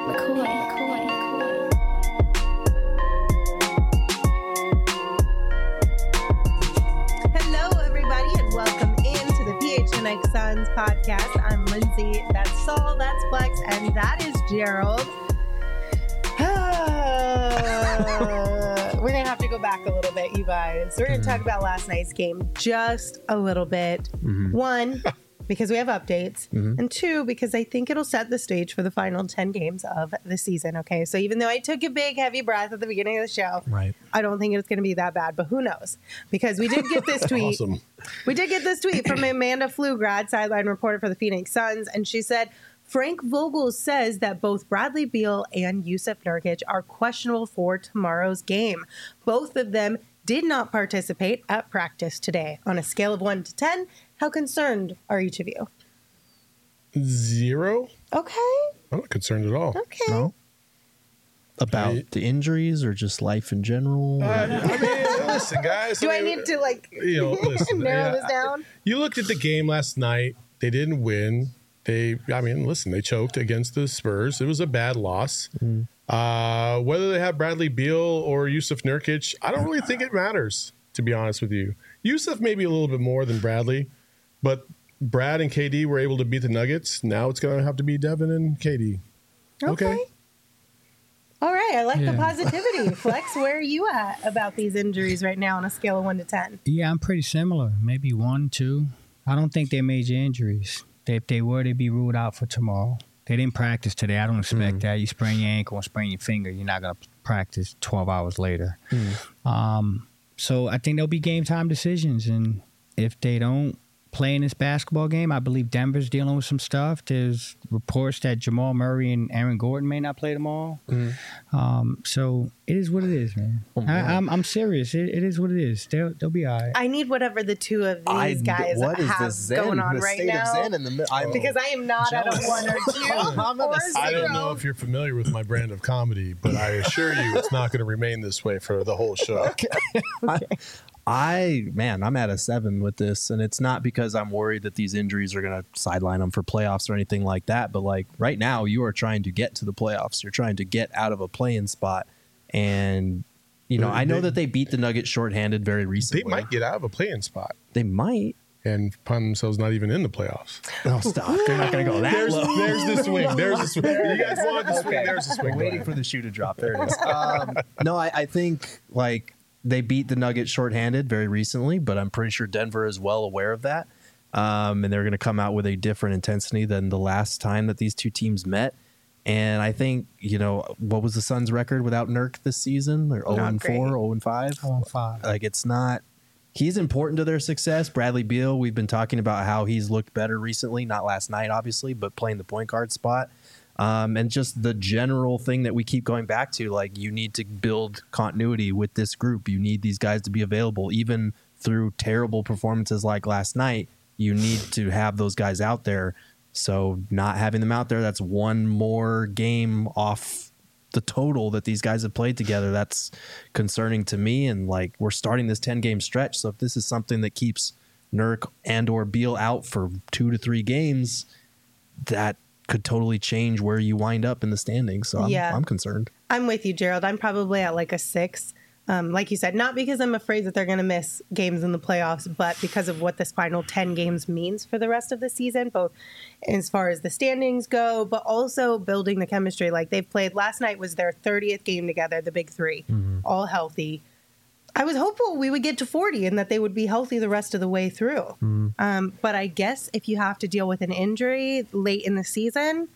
Hello, everybody, and welcome into the PHNX Suns podcast. I'm Lindsay. That's Saul. That's Flex, and that is Gerald. We're going to have to go back a little bit, you guys. We're going to talk about last night's game just a little bit. One, because we have updates. And two, because I think it'll set the stage for the final 10 games of the season. Okay, so even though I took a big, heavy breath at the beginning of the show, I don't think it's going to be that bad. But who knows? Because we did get this tweet. Awesome. We did get this tweet from Amanda Pflugrad, sideline reporter for the Phoenix Suns. And she said, Frank Vogel says that both Bradley Beal and Jusuf Nurkic are questionable for tomorrow's game. Both of them did not participate at practice today. On a scale of 1 to 10, how concerned are each of you? 0. Okay. I'm not concerned at all. Okay. No? About the injuries or just life in general? I mean, listen, guys. Do I need to, listen, narrow this down? You looked at the game last night. They didn't win. They choked against the Spurs. It was a bad loss. Whether they have Bradley Beal or Jusuf Nurkic, I don't really think it matters, to be honest with you. Jusuf maybe a little bit more than Bradley, but Brad and KD were able to beat the Nuggets. Now it's going to have to be Devin and KD. Okay. All right. I like the positivity. Flex, where are you at about these injuries right now on a scale of 1 to 10? Yeah, I'm pretty similar. Maybe 1, 2. I don't think they're major injuries. If they were, they'd be ruled out for tomorrow. They didn't practice today. I don't expect that. You sprain your ankle and sprain your finger, you're not going to practice 12 hours later. So I think there'll be game time decisions. And if they don't play in this basketball game, I believe Denver's dealing with some stuff. There's reports that Jamal Murray and Aaron Gordon may not play tomorrow. So it is what it is, man. I'm serious. It is what it is. They'll be all right. I need whatever the two of these guys have going on right now. Because I am not at a 1 or 2 or 0. I don't know if you're familiar with my brand of comedy, but I assure you it's not going to remain this way for the whole show. I'm at a 7 with this, and it's not because I'm worried that these injuries are going to sideline them for playoffs or anything like that. But like right now, you are trying to get to the playoffs. You're trying to get out of a play-in spot, and I know that they beat the Nuggets shorthanded very recently. They might get out of a play-in spot. They might. And find themselves not even in the playoffs. Oh, stop. They're not going to go that low. There's the swing. There's the swing. You guys wanted the swing. There's the swing. We're waiting for the shoe to drop. There it is. No, I think they beat the Nuggets shorthanded very recently, but I'm pretty sure Denver is well aware of that. And they're going to come out with a different intensity than the last time that these two teams met. And I think, what was the Suns' record without Nurk this season? They're 0-4, 0-5? 0-5. It's not... He's important to their success. Bradley Beal, we've been talking about how he's looked better recently, not last night, obviously, but playing the point guard spot. And just the general thing that we keep going back to, you need to build continuity with this group. You need these guys to be available, even through terrible performances like last night. You need to have those guys out there. So not having them out there, that's one more game off the total that these guys have played together. That's concerning to me. And we're starting this 10-game stretch. So if this is something that keeps Nurk and or Beal out for 2 to 3 games, that could totally change where you wind up in the standings. So I'm concerned. I'm with you, Gerald. I'm probably at a 6. Like you said, not because I'm afraid that they're going to miss games in the playoffs, but because of what this final 10 games means for the rest of the season, both as far as the standings go, but also building the chemistry. They've played, last night was their 30th game together, the big three, all healthy. I was hopeful we would get to 40 and that they would be healthy the rest of the way through. But I guess if you have to deal with an injury late in the season,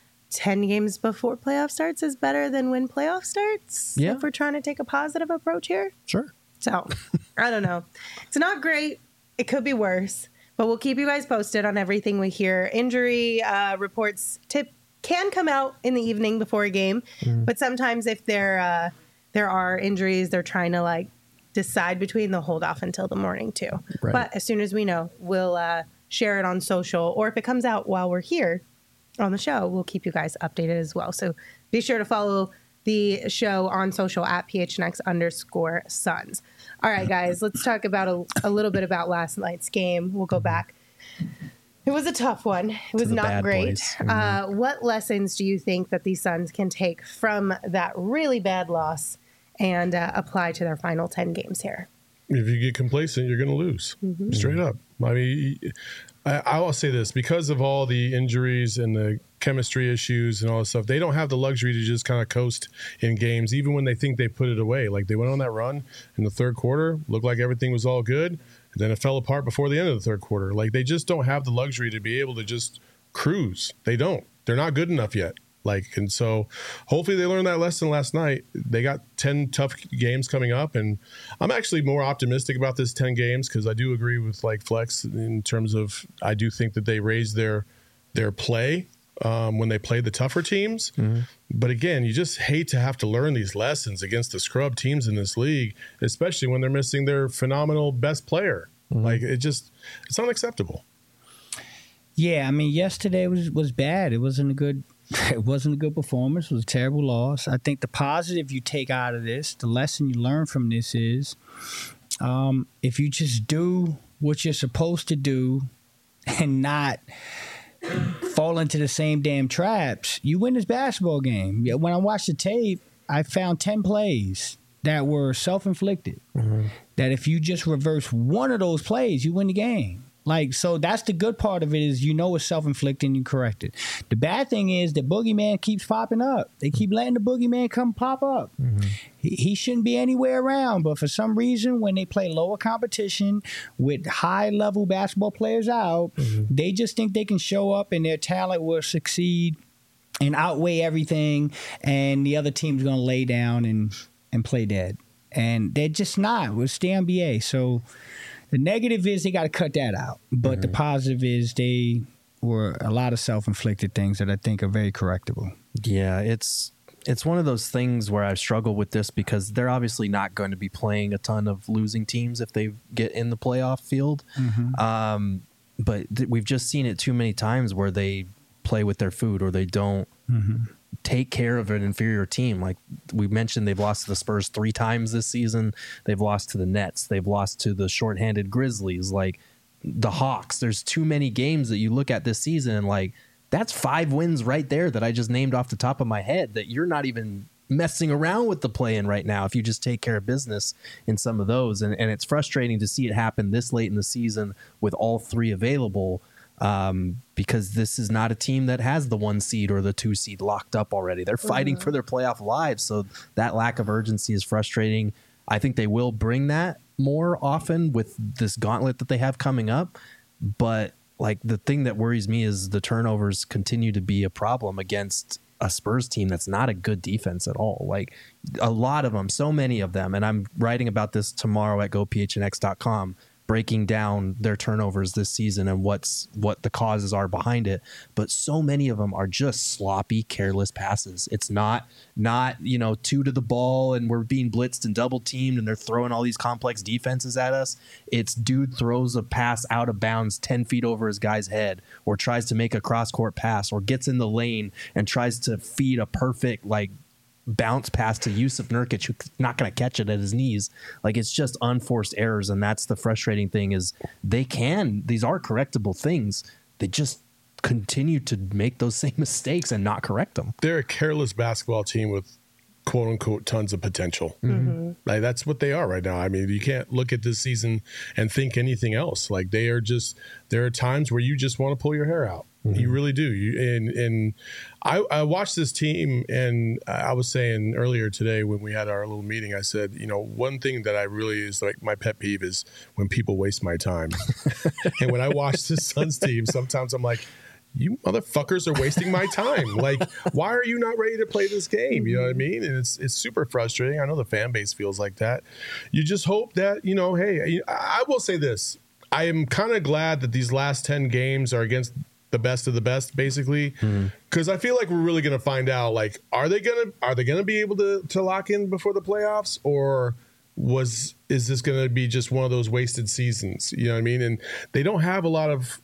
10 games before playoff starts is better than when playoff starts. Yeah. If we're trying to take a positive approach here. Sure. So, I don't know. It's not great. It could be worse. But we'll keep you guys posted on everything we hear. Injury reports can come out in the evening before a game. But sometimes if there are injuries, they're trying to decide between, they'll hold off until the morning too. Right. But as soon as we know, we'll share it on social. Or if it comes out while we're here on the show, we'll keep you guys updated as well. So be sure to follow the show on social at PHNX_Suns. All right, guys, let's talk about a little bit about last night's game. We'll go back. It was a tough one. It was the not bad great. boys. Mm-hmm. What lessons do you think that these Suns can take from that really bad loss and apply to their final 10 games here? If you get complacent, you're going to lose. Straight up. I mean, I will say this, because of all the injuries and the chemistry issues and all this stuff, they don't have the luxury to just kind of coast in games, even when they think they put it away. Like, they went on that run in the third quarter, looked like everything was all good, and then it fell apart before the end of the third quarter. Like, they just don't have the luxury to be able to just cruise. They don't. They're not good enough yet. And so hopefully they learned that lesson last night. They got 10 tough games coming up, and I'm actually more optimistic about this 10 games because I do agree with Flex in terms of, I do think that they raised their play when they played the tougher teams. Mm-hmm. But again, you just hate to have to learn these lessons against the scrub teams in this league, especially when they're missing their phenomenal best player. Mm-hmm. It's unacceptable. Yeah, I mean, yesterday was bad. It wasn't a good performance. It was a terrible loss. I think the positive you take out of this, the lesson you learn from this is, if you just do what you're supposed to do and not fall into the same damn traps, you win this basketball game. When I watched the tape, I found 10 plays that were self-inflicted. Mm-hmm. That if you just reverse one of those plays, you win the game. So that's the good part of it, is it's self-inflicted and you correct it. The bad thing is the boogeyman keeps popping up. They keep letting the boogeyman come pop up. Mm-hmm. He shouldn't be anywhere around, but for some reason, when they play lower competition with high-level basketball players out, they just think they can show up and their talent will succeed and outweigh everything, and the other team's going to lay down and play dead. And they're just not. It's the NBA, so... The negative is they got to cut that out. But the positive is they were a lot of self-inflicted things that I think are very correctable. Yeah, it's one of those things where I struggle with this because they're obviously not going to be playing a ton of losing teams if they get in the playoff field. Mm-hmm. But we've just seen it too many times where they play with their food or they don't take care of an inferior team. Like we mentioned, they've lost to the Spurs 3 times this season. They've lost to the Nets. They've lost to the shorthanded Grizzlies, like the Hawks. There's too many games that you look at this season and that's 5 wins right there that I just named off the top of my head that you're not even messing around with the play-in right now if you just take care of business in some of those. And it's frustrating to see it happen this late in the season with all 3 available. Because this is not a team that has the 1 seed or the 2 seed locked up already. They're fighting for their playoff lives. So that lack of urgency is frustrating. I think they will bring that more often with this gauntlet that they have coming up. But the thing that worries me is the turnovers continue to be a problem against a Spurs team that's not a good defense at all. A lot of them, so many of them. And I'm writing about this tomorrow at gophnx.com. Breaking down their turnovers this season and what the causes are behind it. But so many of them are just sloppy, careless passes. It's not 2 to the ball and we're being blitzed and double teamed and they're throwing all these complex defenses at us. It's dude throws a pass out of bounds 10 feet over his guy's head or tries to make a cross-court pass or gets in the lane and tries to feed a perfect bounce pass to Yusuf Nurkic, who's not going to catch it at his knees. It's just unforced errors, and that's the frustrating thing is these are correctable things. They just continue to make those same mistakes and not correct them. They're a careless basketball team with quote unquote tons of potential. Mm-hmm. That's what they are right now. I mean, you can't look at this season and think anything else. There are times where you just want to pull your hair out. Mm-hmm. You really do. I watched this team, and I was saying earlier today when we had our little meeting, I said, one thing that I really is my pet peeve is when people waste my time. And when I watch this Suns team, sometimes I'm like, you motherfuckers are wasting my time. Why are you not ready to play this game? You know what I mean? And it's super frustrating. I know the fan base feels like that. You just hope that, hey, I will say this. I am kind of glad that these last 10 games are against the best of the best, basically, because I feel like we're really going to find out, are they gonna be able to lock in before the playoffs, or is this going to be just one of those wasted seasons? You know what I mean? And they don't have a lot of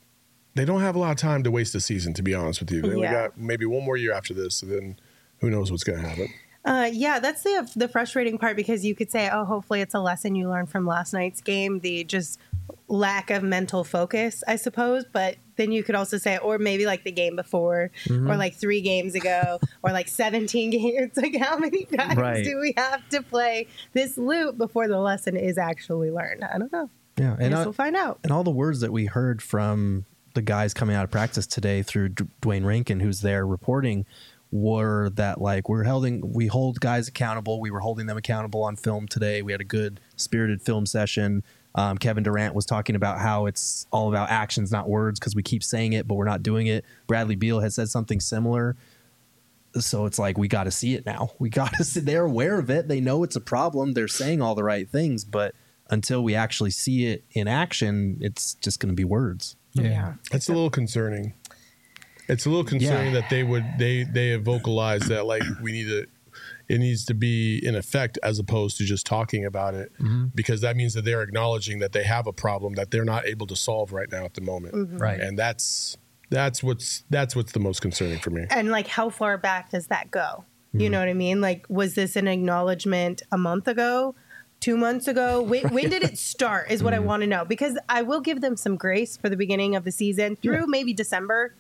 time to waste a season, to be honest with you. They only got maybe one more year after this, and then who knows what's going to happen. That's the frustrating part, because you could say, oh, hopefully it's a lesson you learned from last night's game, the just lack of mental focus, I suppose. But then you could also say, or maybe like the game before, or like 3 games ago, or like 17 games. Like, how many times do we have to play this loop before the lesson is actually learned? I don't know. Yeah, I guess we'll find out. And all the words that we heard from the guys coming out of practice today through Dwayne Rankin, who's there reporting, were that like we hold guys accountable. We were holding them accountable on film today. We had a good spirited film session. Kevin Durant was talking about how it's all about actions, not words, because we keep saying it, but we're not doing it. Bradley Beal has said something similar. So it's like, we got to see it now. We got to see, they're aware of it. They know it's a problem. They're saying all the right things, but until we actually see it in action, it's just going to be words. Yeah. It's a little concerning. It's a little concerning that they have vocalized that like it needs to be in effect as opposed to just talking about it, because that means that they're acknowledging that they have a problem that they're not able to solve right now at the moment. Right. And that's what's the most concerning for me. And like, how far back does that go? You know what I mean? Like, was this an acknowledgement a month ago, 2 months ago? When did it start is what I want to know, because I will give them some grace for the beginning of the season through maybe December.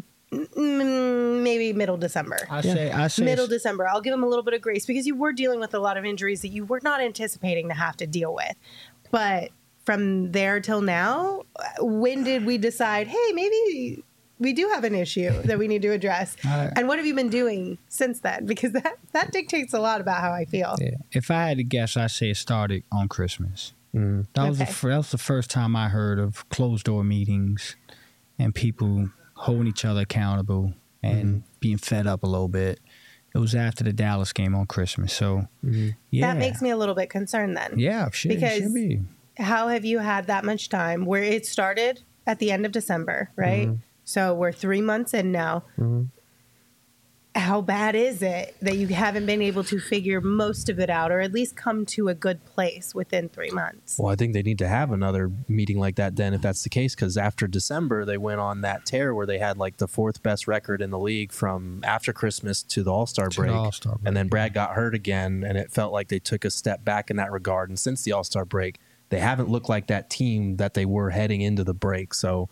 Maybe middle December. I say Middle December. I'll give them a little bit of grace because you were dealing with a lot of injuries that you were not anticipating to have to deal with. But from there till now, when did we decide, hey, maybe we do have an issue that we need to address? And what have you been doing since then? Because that dictates a lot about how I feel. Yeah. If I had to guess, I'd say it started on Christmas. That was the first time I heard of closed door meetings and people holding each other accountable and being fed up a little bit. It was after the Dallas game on Christmas. So, That makes me a little bit concerned then. Yeah, sure. Because should be. How have you had that much time where it started at the end of December, right? So we're 3 months in now. How bad is it that you haven't been able to figure most of it out, or at least come to a good place within 3 months? Well, I think they need to have another meeting like that then, if that's the case, because after December, they went on that tear where they had like the 4th best record in the league from after Christmas to the All-Star break. And then Brad got hurt again, and it felt like they took a step back in that regard. And since the All-Star break, they haven't looked like that team that they were heading into the break. So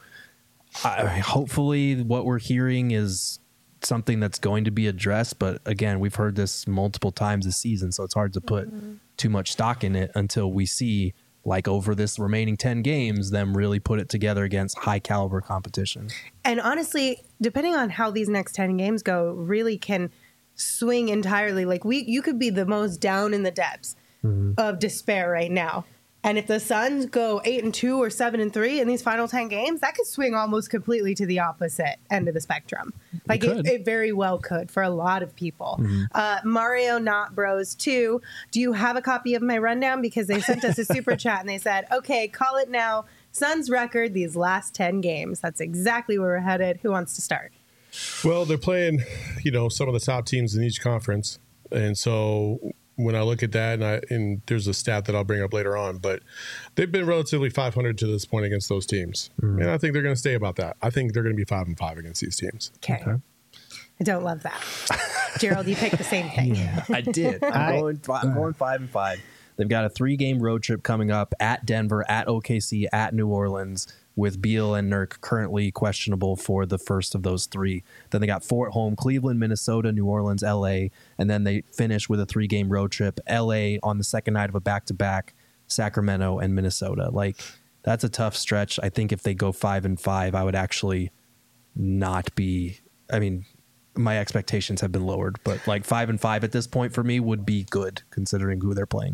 hopefully what we're hearing is something that's going to be addressed, but again, we've heard this multiple times this season, so it's hard to put too much stock in it until we see, like, over this remaining 10 games, them really put it together against high caliber competition. And honestly, depending on how these next 10 games go, really can swing entirely. Like, you could be the most down in the depths of despair right now. And if the Suns go 8-2 or 7-3 in these final 10 games, that could swing almost completely to the opposite end of the spectrum. Like it very well could for a lot of people. Mario Not Bros 2. Do you have a copy of my rundown? Because they sent us a super chat and they said, okay, call it now. Suns record these last 10 games. That's exactly where we're headed. Who wants to start? Well, they're playing, some of the top teams in each conference. And so when I look at that, and there's a stat that I'll bring up later on, but they've been relatively 500 to this point against those teams. And I think they're going to stay about that. I think they're going to be 5-5 against these teams. Okay. I don't love that. Gerald, you picked the same thing. Yeah, I did. I'm going 5-5. They've got a 3-game road trip coming up at Denver, at OKC, at New Orleans, with Beal and Nurk currently questionable for the first of those 3. Then they got 4 at home: Cleveland, Minnesota, New Orleans, LA. And then they finish with a 3-game road trip: LA on the second night of a back-to-back, Sacramento and Minnesota. Like, that's a tough stretch. I think if they go 5-5, I would actually not be, my expectations have been lowered, but like 5-5 at this point for me would be good considering who they're playing.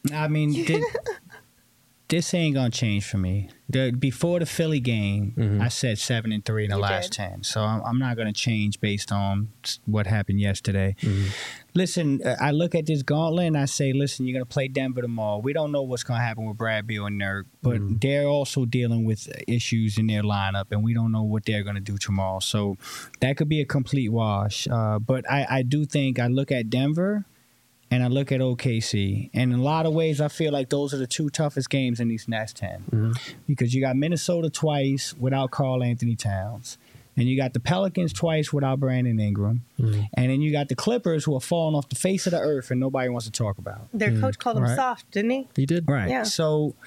This ain't gonna change for me. Before the Philly game, I said 7-3 in the last 10. So I'm not gonna change based on what happened yesterday. Listen, I look at this gauntlet and I say, listen, you're gonna play Denver tomorrow. We don't know what's gonna happen with Brad Beal and Nurk, but they're also dealing with issues in their lineup, and we don't know what they're gonna do tomorrow. So that could be a complete wash. But I do think I look at Denver and I look at OKC, and in a lot of ways, I feel like those are the 2 toughest games in these next 10. Because you got Minnesota twice without Karl Anthony Towns, and you got the Pelicans twice without Brandon Ingram, and then you got the Clippers who are falling off the face of the earth and nobody wants to talk about. Their coach called them soft, didn't he? He did. Right. Yeah. So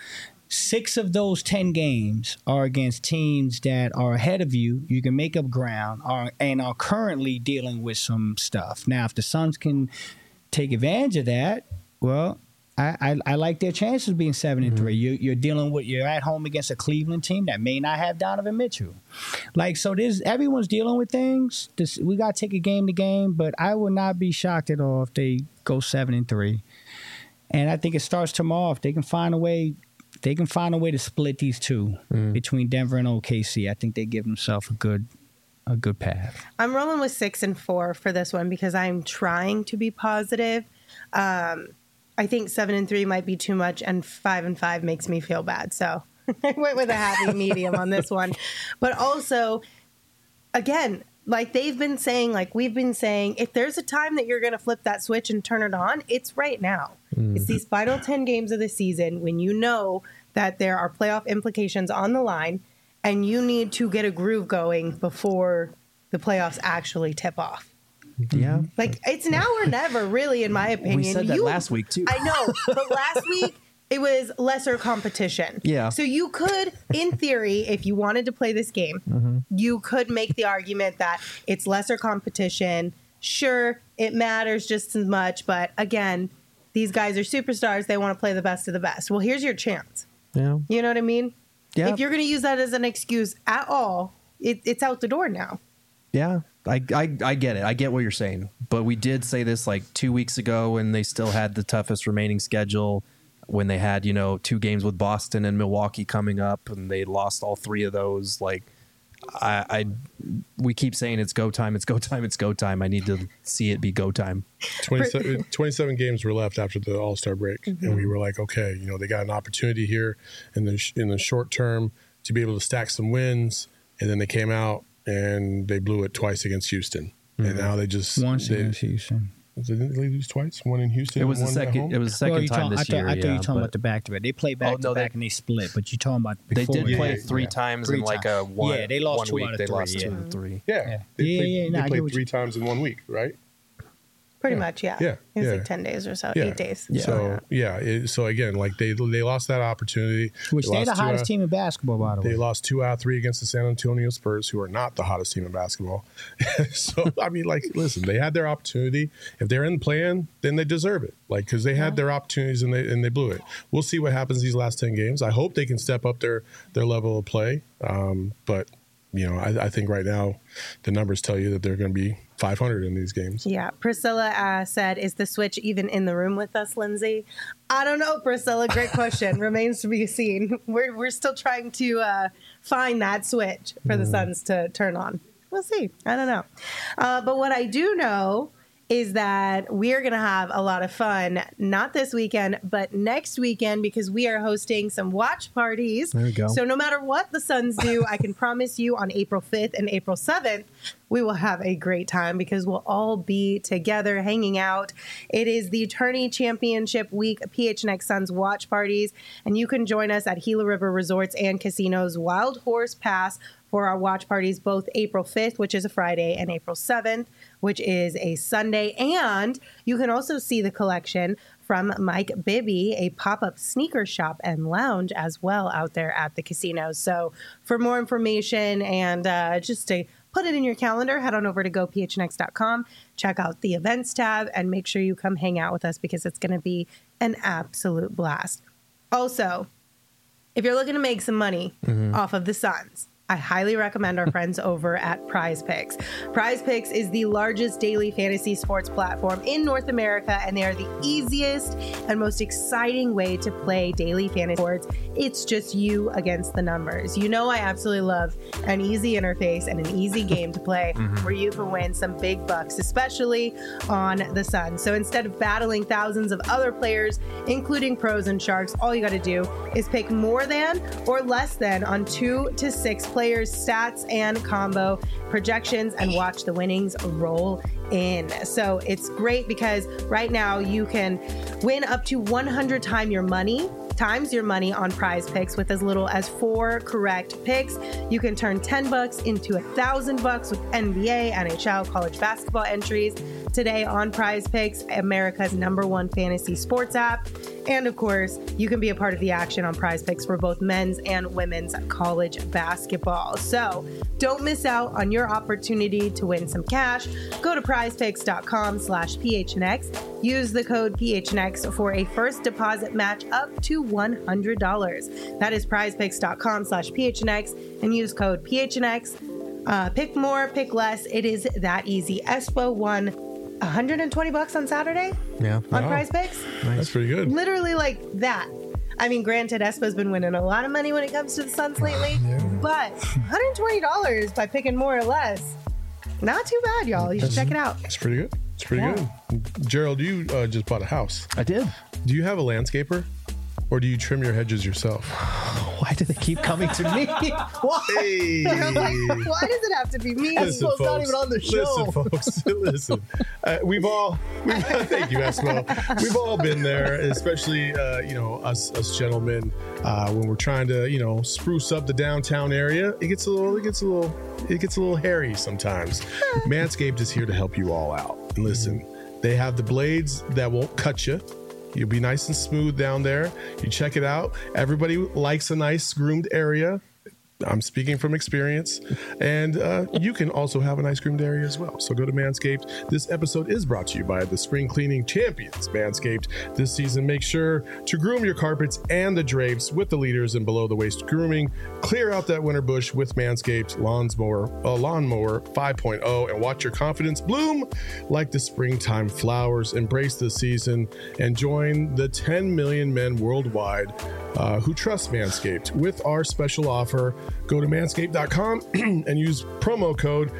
6 of those 10 games are against teams that are ahead of you. You can make up ground and are currently dealing with some stuff. Now, if the Suns can take advantage of that, well, I like their chances of being 7-3. You're at home against a Cleveland team that may not have Donovan Mitchell. So everyone's dealing with things. We got to take it game to game, but I would not be shocked at all if they go 7-3. And I think it starts tomorrow. If they can find a way to split these two between Denver and OKC, I think they give themselves a good path. I'm rolling with 6-4 for this one because I'm trying to be positive. I think 7-3 might be too much, and 5-5 makes me feel bad. So I went with a happy medium on this one. But also, again, like they've been saying, like we've been saying, if there's a time that you're going to flip that switch and turn it on, it's right now. It's these final 10 games of the season when you know that there are playoff implications on the line and you need to get a groove going before the playoffs actually tip off. Yeah. Like, it's now or never, really, in my opinion. We said that last week, too. I know, but last week, it was lesser competition. Yeah. So you could, in theory, if you wanted to play this game, you could make the argument that it's lesser competition. Sure, it matters just as much, but again, these guys are superstars. They want to play the best of the best. Well, here's your chance. Yeah. You know what I mean? Yeah. If you're going to use that as an excuse at all, it's out the door now. Yeah. I get it. I get what you're saying. But we did say this like 2 weeks ago when they still had the toughest remaining schedule, when they had, 2 games with Boston and Milwaukee coming up, and they lost all 3 of those. Like, we keep saying it's go time, it's go time, it's go time. I need to see it be go time. 27 games were left after the All-Star break, and we were like, okay, they got an opportunity here in the short term to be able to stack some wins, and then they came out and they blew it twice against Houston, and now they just once against Houston. Didn't they lose twice? One in Houston. It was and the one at second. home? It was the second time this year. I thought you were talking about the back-to-back. They played back-to-back and they split, but you're talking about before. They did play Yeah, 3 times in like a one. Yeah, they lost 1 2 week. out of They 3, lost yeah. 2 and 3. Yeah. They played 3 times in 1 week, right? Pretty much, yeah. Yeah, It was yeah. like 10 days or so, Yeah. 8 days. Yeah. So again, like they lost that opportunity. Which they're the hottest team in basketball, by the way. They lost 2 out of 3 against the San Antonio Spurs, who are not the hottest team in basketball. So, I mean, like, listen, they had their opportunity. If they're in the play-in, then they deserve it. Like, because they had their opportunities and they blew it. We'll see what happens these last 10 games. I hope they can step up their level of play. But, I think right now the numbers tell you that they're going to be 500 in these games. Yeah. Priscilla said, is the switch even in the room with us, Lindsay? I don't know, Priscilla. Great question. Remains to be seen. We're still trying to find that switch for the Suns to turn on. We'll see. I don't know. But what I do know is that we're going to have a lot of fun, not this weekend, but next weekend, because we are hosting some watch parties. There we go. So no matter what the Suns do, I can promise you on April 5th and April 7th, we will have a great time because we'll all be together hanging out. It is the Tourney Championship Week PHNX Suns watch parties, and you can join us at Gila River Resorts and Casinos Wild Horse Pass for our watch parties, both April 5th, which is a Friday, and April 7th, which is a Sunday. And you can also see the collection from Mike Bibby, a pop-up sneaker shop and lounge as well out there at the casinos. So for more information and just to put it in your calendar, head on over to gophnx.com, check out the events tab, and make sure you come hang out with us because it's going to be an absolute blast. Also, if you're looking to make some money off of the Suns, I highly recommend our friends over at Prize Picks. Prize Picks is the largest daily fantasy sports platform in North America, and they are the easiest and most exciting way to play daily fantasy sports. It's just you against the numbers. I absolutely love an easy interface and an easy game to play where you can win some big bucks, especially on the Suns. So instead of battling thousands of other players, including pros and sharks, all you got to do is pick more than or less than on 2 to 6 players, stats, and combo projections, and watch the winnings roll in. So it's great because right now you can win up to 100 times your money on Prize Picks with as little as 4 correct picks. You can turn $10 into $1,000 with NBA, NHL, college basketball entries today on Prize Picks, America's #1 fantasy sports app. And of course, you can be a part of the action on Prize Picks for both men's and women's college basketball. So don't miss out on your opportunity to win some cash. Go to prizepicks.com/PHNX. Use the code PHNX for a first deposit match up to $100. That is prizepicks.com/PHNX and use code PHNX. Pick more, pick less. It is that easy. Espo won $120 on Saturday Yeah. on Prize Picks. That's pretty good. Literally like that. I mean, granted, Espo's been winning a lot of money when it comes to the Suns lately, but $120 by picking more or less, not too bad, y'all. You should check it out. It's pretty good. It's pretty good. Gerald, you just bought a house. I did. Do you have a landscaper? Or do you trim your hedges yourself? Why do they keep coming to me? Why? Hey. I was like, why does it have to be me? Espo's not even on the show. Listen, folks. Listen. We've thank you, Espo. We've all been there, especially us gentlemen when we're trying to spruce up the downtown area. It gets a little hairy sometimes. Manscaped is here to help you all out. And listen, they have the blades that won't cut you. You'll be nice and smooth down there. You check it out. Everybody likes a nice groomed area. I'm speaking from experience. And you can also have a nice groomed area as well. So go to Manscaped. This episode is brought to you by the spring cleaning champions, Manscaped. This season, make sure to groom your carpets and the drapes with the leaders in below the waist grooming. Clear out that winter bush with Manscaped Lawnmower 5.0 and watch your confidence bloom like the springtime flowers. Embrace the season and join the 10 million men worldwide who trust Manscaped with our special offer. Go to manscaped.com and use promo code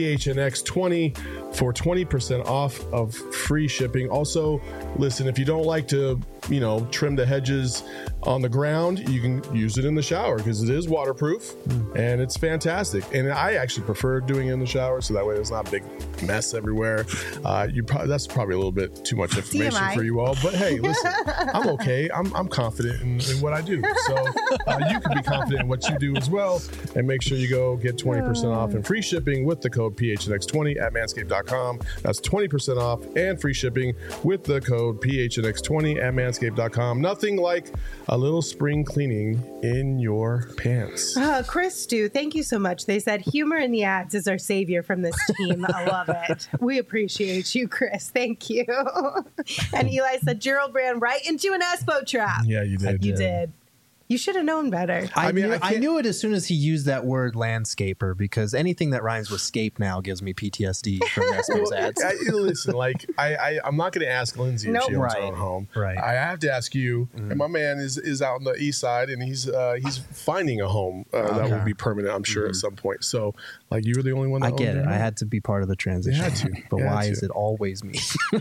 PHNX20 for 20% off of free shipping. Also, listen, if you don't like to, trim the hedges on the ground, you can use it in the shower because it is waterproof and it's fantastic. And I actually prefer doing it in the shower so that way there's not a big mess everywhere. That's probably a little bit too much information for you all, but hey, listen, I'm okay. I'm confident in what I do. So you can be confident in what you do as well. And make sure you go get 20% off and free shipping with the code PHNX20 at manscaped.com. That's 20% off and free shipping with the code PHNX20 at manscaped.com. Nothing like a little spring cleaning in your pants. Chris Stu, thank you so much. They said humor in the ads is our savior from this team. I love it. We appreciate you, Chris. Thank you. And Eli said Gerald ran right into an Espo trap. Yeah, you did. You did. You should have known better. I knew it as soon as he used that word landscaper because anything that rhymes with scape now gives me PTSD from Espo's ads. Listen, I'm not going to ask Lindsay if she owns her own home. Right. I have to ask you. And my man is out on the east side, and he's finding a home that will be permanent, I'm sure, at some point. So, you were the only one that I get owned it. I had to be part of the transition. You had to. But why is it always me?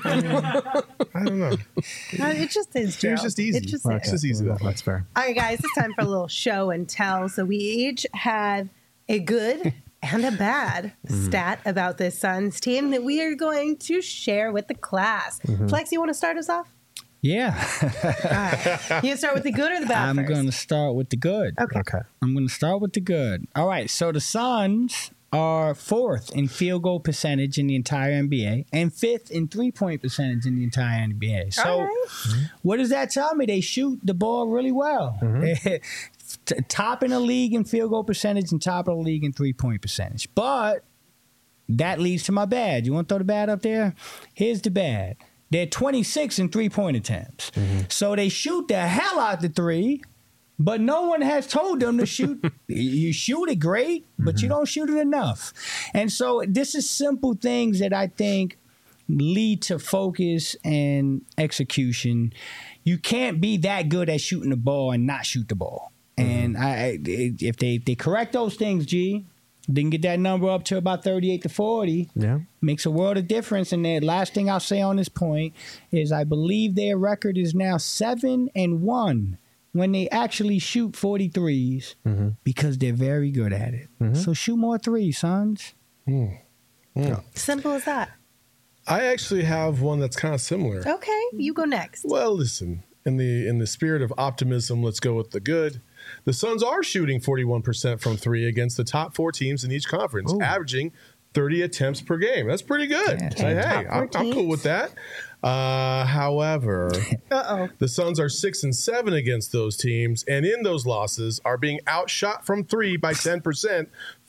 I don't know. It just is, Gerald. It's just easy. It just It's is. just easy that way. That's fair. All right, guys, it's time for a little show and tell. So we each have a good and a bad stat about this Suns team that we are going to share with the class. Flex, you want to start us off? Yeah. All right. You start with the good or the bad I'm first? going to start with the good. Okay. I'm going to start with the good. All right. So the Suns are 4th in field goal percentage in the entire NBA and 5th in 3-point percentage in the entire NBA. So All right. what does that tell me? They shoot the ball really well. Top in the league in field goal percentage and top of the league in 3-point percentage. But that leads to my bad. You want to throw the bad up there? Here's the bad. They're 26 in 3-point attempts. So they shoot the hell out the three, but no one has told them to shoot. You shoot it great, but you don't shoot it enough. And so this is simple things that I think lead to focus and execution. You can't be that good at shooting the ball and not shoot the ball. And if they correct those things, they can get that number up to about 38 to 40. Yeah. Makes a world of difference. And the last thing I'll say on this point is I believe their record is now 7-1 when they actually shoot 43s because they're very good at it. So shoot more threes, Suns. Simple as that. I actually have one that's kind of similar. Okay, you go next. Well, listen, in the spirit of optimism, let's go with the good. The Suns are shooting 41% from three against the top 4 teams in each conference, averaging 30 attempts per game. That's pretty good. Yeah. So, hey, I'm cool with that. However, the Suns are 6-7 against those teams, and in those losses are being outshot from three by 10%,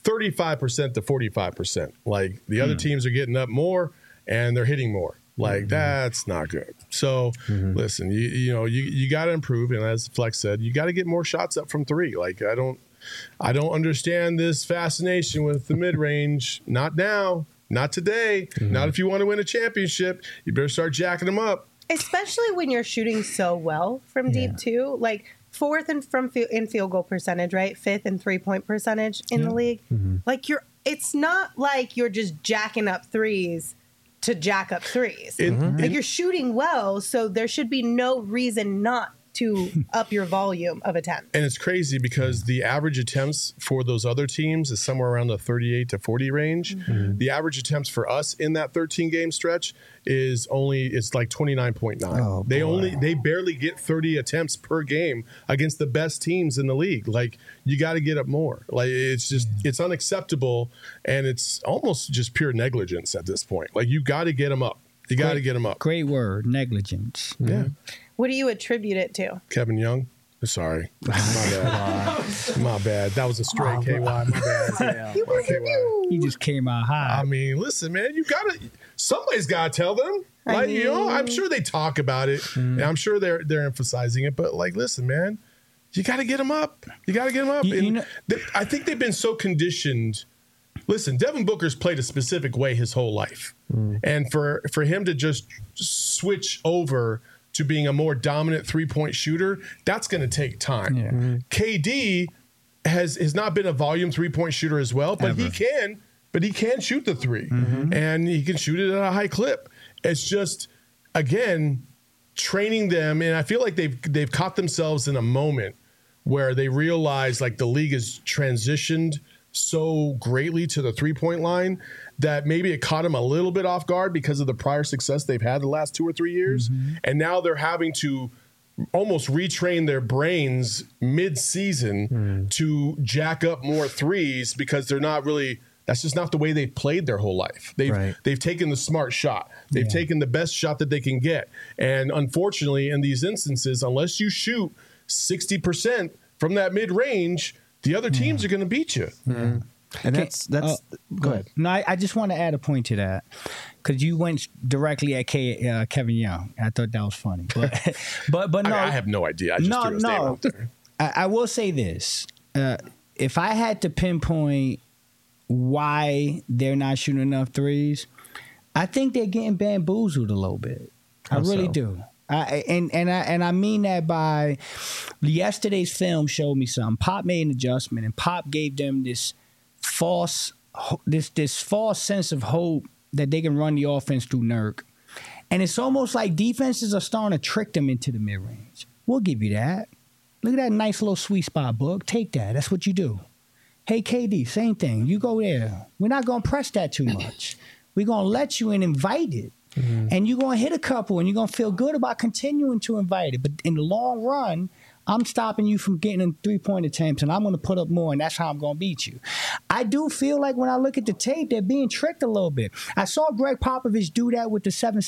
35% to 45%. Like the other teams are getting up more and they're hitting more. Like that's not good. So listen, you got to improve, and as Flex said, you got to get more shots up from three. Like I don't understand this fascination with the mid range. Not now, not today, not if you want to win a championship. You better start jacking them up. Especially when you're shooting so well from deep too, like fourth in field goal percentage, right? Fifth in 3-point percentage in the league. Like it's not like you're just jacking up threes to jack up threes. Like you're shooting well, so there should be no reason not to up your volume of attempts. And it's crazy because the average attempts for those other teams is somewhere around the 38 to 40 range. The average attempts for us in that 13 game stretch is like 29.9. Oh, they barely get 30 attempts per game against the best teams in the league. Like you got to get up more. Like it's just it's unacceptable, and it's almost just pure negligence at this point. Like you got to get them up. You got to get them up. Great word, negligence. Yeah. What do you attribute it to? Kevin Young. Sorry. My bad. My bad. That was a straight KY. My bad. He just came out high. I mean, listen, man, somebody's got to tell them. Like, I'm sure they talk about it, and I'm sure they're emphasizing it. But like, listen, man, you got to get them up. You got to get them up. I think they've been so conditioned. Listen, Devin Booker's played a specific way his whole life, and for him to just switch over to being a more dominant 3-point shooter, that's going to take time. Yeah. KD has not been a volume 3-point shooter as well, but he can shoot the three, and he can shoot it at a high clip. It's just, again, training them, and I feel like they've caught themselves in a moment where they realize like the league has transitioned so greatly to the 3-point line that maybe it caught them a little bit off guard because of the prior success they've had the last 2 or 3 years. And now they're having to almost retrain their brains mid-season to jack up more threes because they're not really – that's just not the way they've played their whole life. They've taken the smart shot. They've taken the best shot that they can get. And unfortunately, in these instances, unless you shoot 60% from that mid-range, the other teams are going to beat you. And that's go ahead. No, I just want to add a point to that because you went directly at Kevin Young. I thought that was funny, but no, I have no idea. I just threw his name out there. I will say this: if I had to pinpoint why they're not shooting enough threes, I think they're getting bamboozled a little bit. I really do. I mean that by yesterday's film showed me something. Pop made an adjustment, and Pop gave them this false sense of hope that they can run the offense through Nurk. And it's almost like defenses are starting to trick them into the mid-range. We'll give you that. Look at that nice little sweet spot, Book. Take that. That's what you do. Hey, KD, same thing. You go there. We're not going to press that too much. We're going to let you and invite it. And you're going to hit a couple, and you're going to feel good about continuing to invite it. But in the long run, I'm stopping you from getting in 3-point attempts, and I'm going to put up more, and that's how I'm going to beat you. I do feel like when I look at the tape, they're being tricked a little bit. I saw Greg Popovich do that with the 7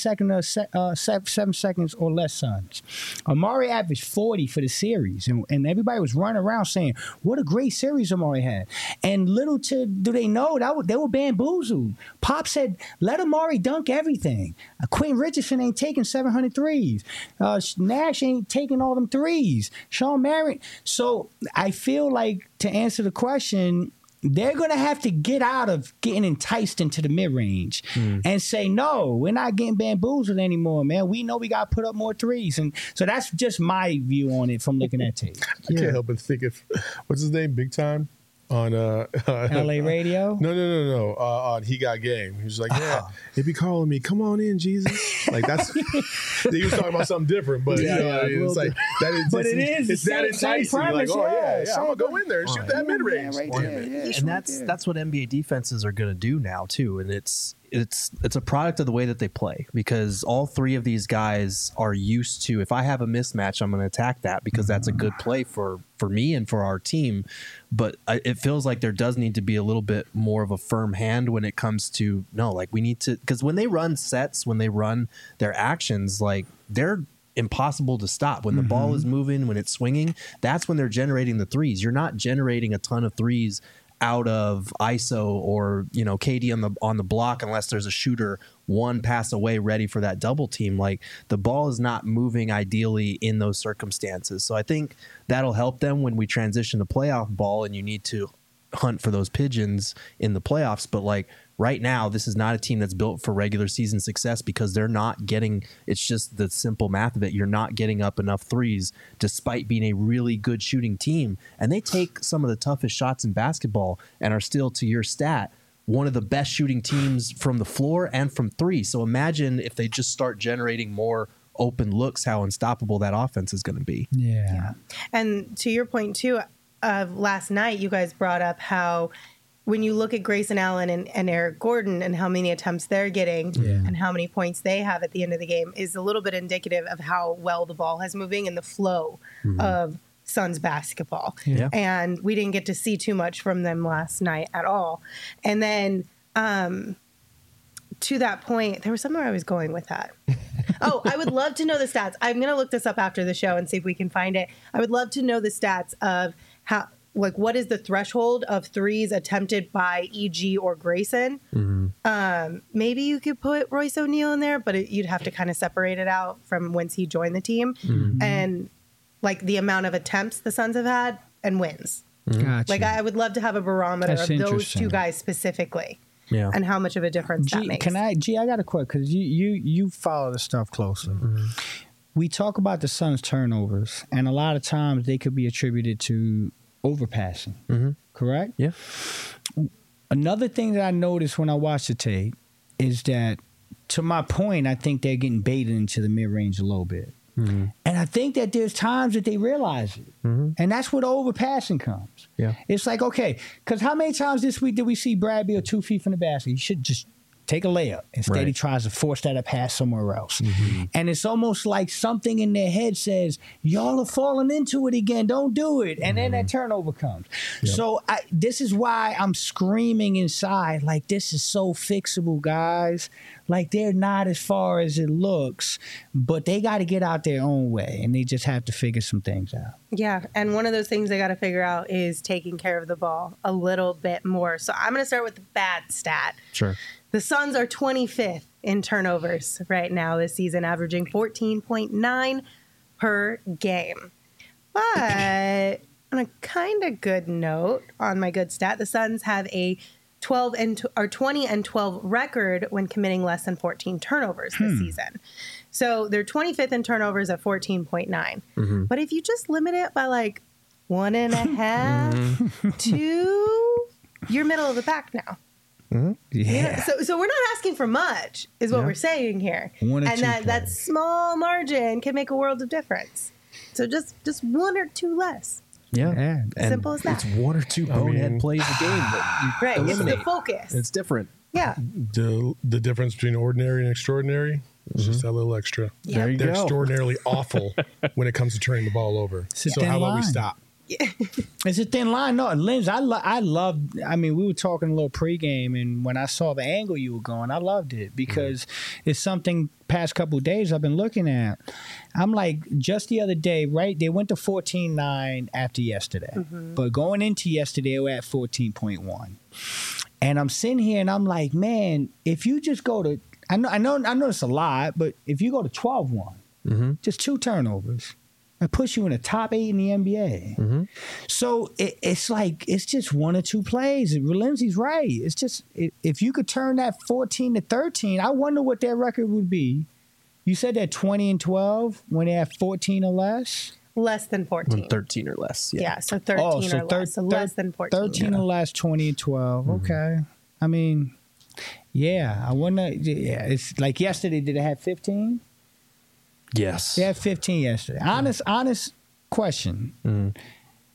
seconds or less Suns. Amari averaged 40 for the series, and everybody was running around saying, what a great series Amari had. And little do they know, they were bamboozled. Pop said, let Amari dunk everything. Quentin Richardson ain't taking 700 threes. Nash ain't taking all them threes. Sean Marion. So I feel like, to answer the question, they're going to have to get out of getting enticed into the mid-range and say, no, we're not getting bamboozled anymore, man. We know we got to put up more threes. And so that's just my view on it from looking at tape. I can't help but think of, what's his name, Big Time? On LA Radio? No. On He Got Game. He was like, yeah, they be calling me, come on in, Jesus. Like that's he was talking about something different, but it's like that is but it's that enticing. Premise, like, oh yeah, I'm gonna go in there and shoot that mid range. And that's what NBA defenses are gonna do now too. And it's it's a product of the way that they play, because all three of these guys are used to, if I have a mismatch, I'm going to attack that because that's a good play for me and for our team. But it feels like there does need to be a little bit more of a firm hand when it comes to, no, like we need to, because when they run sets, when they run their actions, like they're impossible to stop. When the ball is moving, when it's swinging, that's when they're generating the threes. You're not generating a ton of threes out of ISO or, you know, KD on the block unless there's a shooter one pass away ready for that double team. Like the ball is not moving ideally in those circumstances. So I think that'll help them when we transition to playoff ball and you need to hunt for those pigeons in the playoffs. But like right now, this is not a team that's built for regular season success because they're not getting, it's just the simple math of it. You're not getting up enough threes despite being a really good shooting team. And they take some of the toughest shots in basketball and are still, to your stat, one of the best shooting teams from the floor and from three. So imagine if they just start generating more open looks, how unstoppable that offense is going to be. Yeah. And to your point too, last night you guys brought up how when you look at Grayson Allen and Eric Gordon and how many attempts they're getting and how many points they have at the end of the game is a little bit indicative of how well the ball has moving and the flow of Suns basketball. Yeah. And we didn't get to see too much from them last night at all. And then to that point, there was somewhere I was going with that. Oh, I would love to know the stats. I'm going to look this up after the show and see if we can find it. I would love to know the stats of how, like, what is the threshold of threes attempted by EG or Grayson? Maybe you could put Royce O'Neal in there, but you'd have to kind of separate it out from whence he joined the team and like the amount of attempts the Suns have had and wins. Gotcha. Like, I would love to have a barometer That's of those interesting. two guys specifically. Yeah. And how much of a difference that makes. I got a question because you follow the stuff closely. We talk about the Suns' turnovers, and a lot of times they could be attributed to overpassing. Correct? Yeah. Another thing that I noticed when I watched the tape is that, to my point, I think they're getting baited into the mid-range a little bit. And I think that there's times that they realize it. And that's where the overpassing comes. Yeah. It's like, okay, because how many times this week did we see Brad Beal 2 feet from the basket? He should just take a layup. Instead, he tries to force that pass somewhere else. And it's almost like something in their head says, y'all are falling into it again. Don't do it. And then that turnover comes. So this is why I'm screaming inside, like, this is so fixable, guys. Like, they're not as far as it looks, but they got to get out their own way, and they just have to figure some things out. Yeah, and one of those things they got to figure out is taking care of the ball a little bit more. So I'm going to start with the bad stat. Sure. The Suns are 25th in turnovers right now this season, averaging 14.9 per game. But on a kind of good note, on my good stat, the Suns have a 20 and 12 record when committing less than 14 turnovers this season. So they're 25th in turnovers at 14.9. But if you just limit it by like 1.5, 2, you're middle of the pack now. Yeah. So we're not asking for much, is what we're saying here. One or and two that players. small margin can make a world of difference. So just 1 or 2 less. Yeah. And Simple as that. It's 1 or 2 bonehead plays a game that you Right. It's eliminate. the focus. It's different. Yeah. The difference between ordinary and extraordinary is just that little extra. There you They're go. extraordinarily awful when it comes to turning the ball over. It's a So thin how about we line. stop? It's a thin line. No, Linz, I mean, we were talking a little pregame, and when I saw the angle you were going, I loved it because it's something past couple of days I've been looking at. I'm like, just the other day, right? They went to 14-9 after yesterday. But going into yesterday, they were at 14.1. And I'm sitting here and I'm like, man, if you just go to, I know it's a lot, but if you go to 12-1, just 2 turnovers, it puts you in the top 8 in the NBA. So it's like, it's just 1 or 2 plays. Lindsay's right. It's just, if you could turn that 14 to 13, I wonder what their record would be. You said they're 20 and 12 when they have 14 or less? Less than 14. 13 or less. Yeah, so 13 or less. So less than 14. 13 or less, 20 and 12. Okay. I mean, yeah, I wonder. Yeah, it's like yesterday, did they have 15? Yes. They had 15 yesterday. Honest question.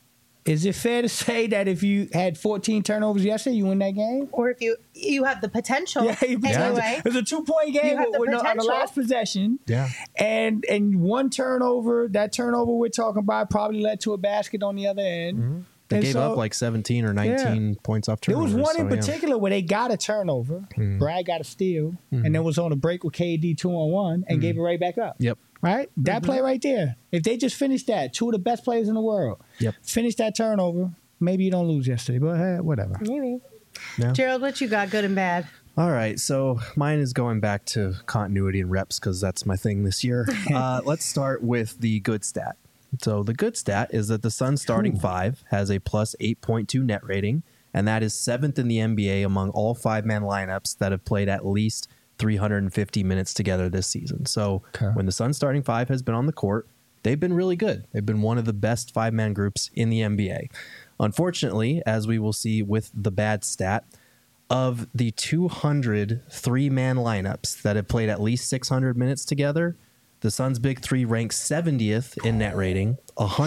Is it fair to say that if you had 14 turnovers yesterday, you win that game? Or if you have the potential anyway. It was a 2-point game on the last possession. Yeah. And one turnover, that turnover we're talking about probably led to a basket on the other end. Mm-hmm. They gave up like 17 or 19 points off turnovers. There was one in particular where they got a turnover. Brad got a steal, and then was on a break with KD 2-on-1 and gave it right back up. Yep. Right? That play right there. If they just finished that, two of the best players in the world, finish that turnover, maybe you don't lose yesterday, but whatever. Maybe. Yeah. Gerald, what you got, good and bad? All right, so mine is going back to continuity and reps because that's my thing this year. Let's start with the good stat. So the good stat is that the Suns starting five has a plus 8.2 net rating, and that is 7th in the NBA among all 5-man lineups that have played at least 350 minutes together this season. So when the Suns starting five has been on the court, they've been really good. They've been one of the best 5-man groups in the NBA. Unfortunately, as we will see with the bad stat, of the 200 3-man lineups that have played at least 600 minutes together, the Suns' big three ranks 70th in net rating,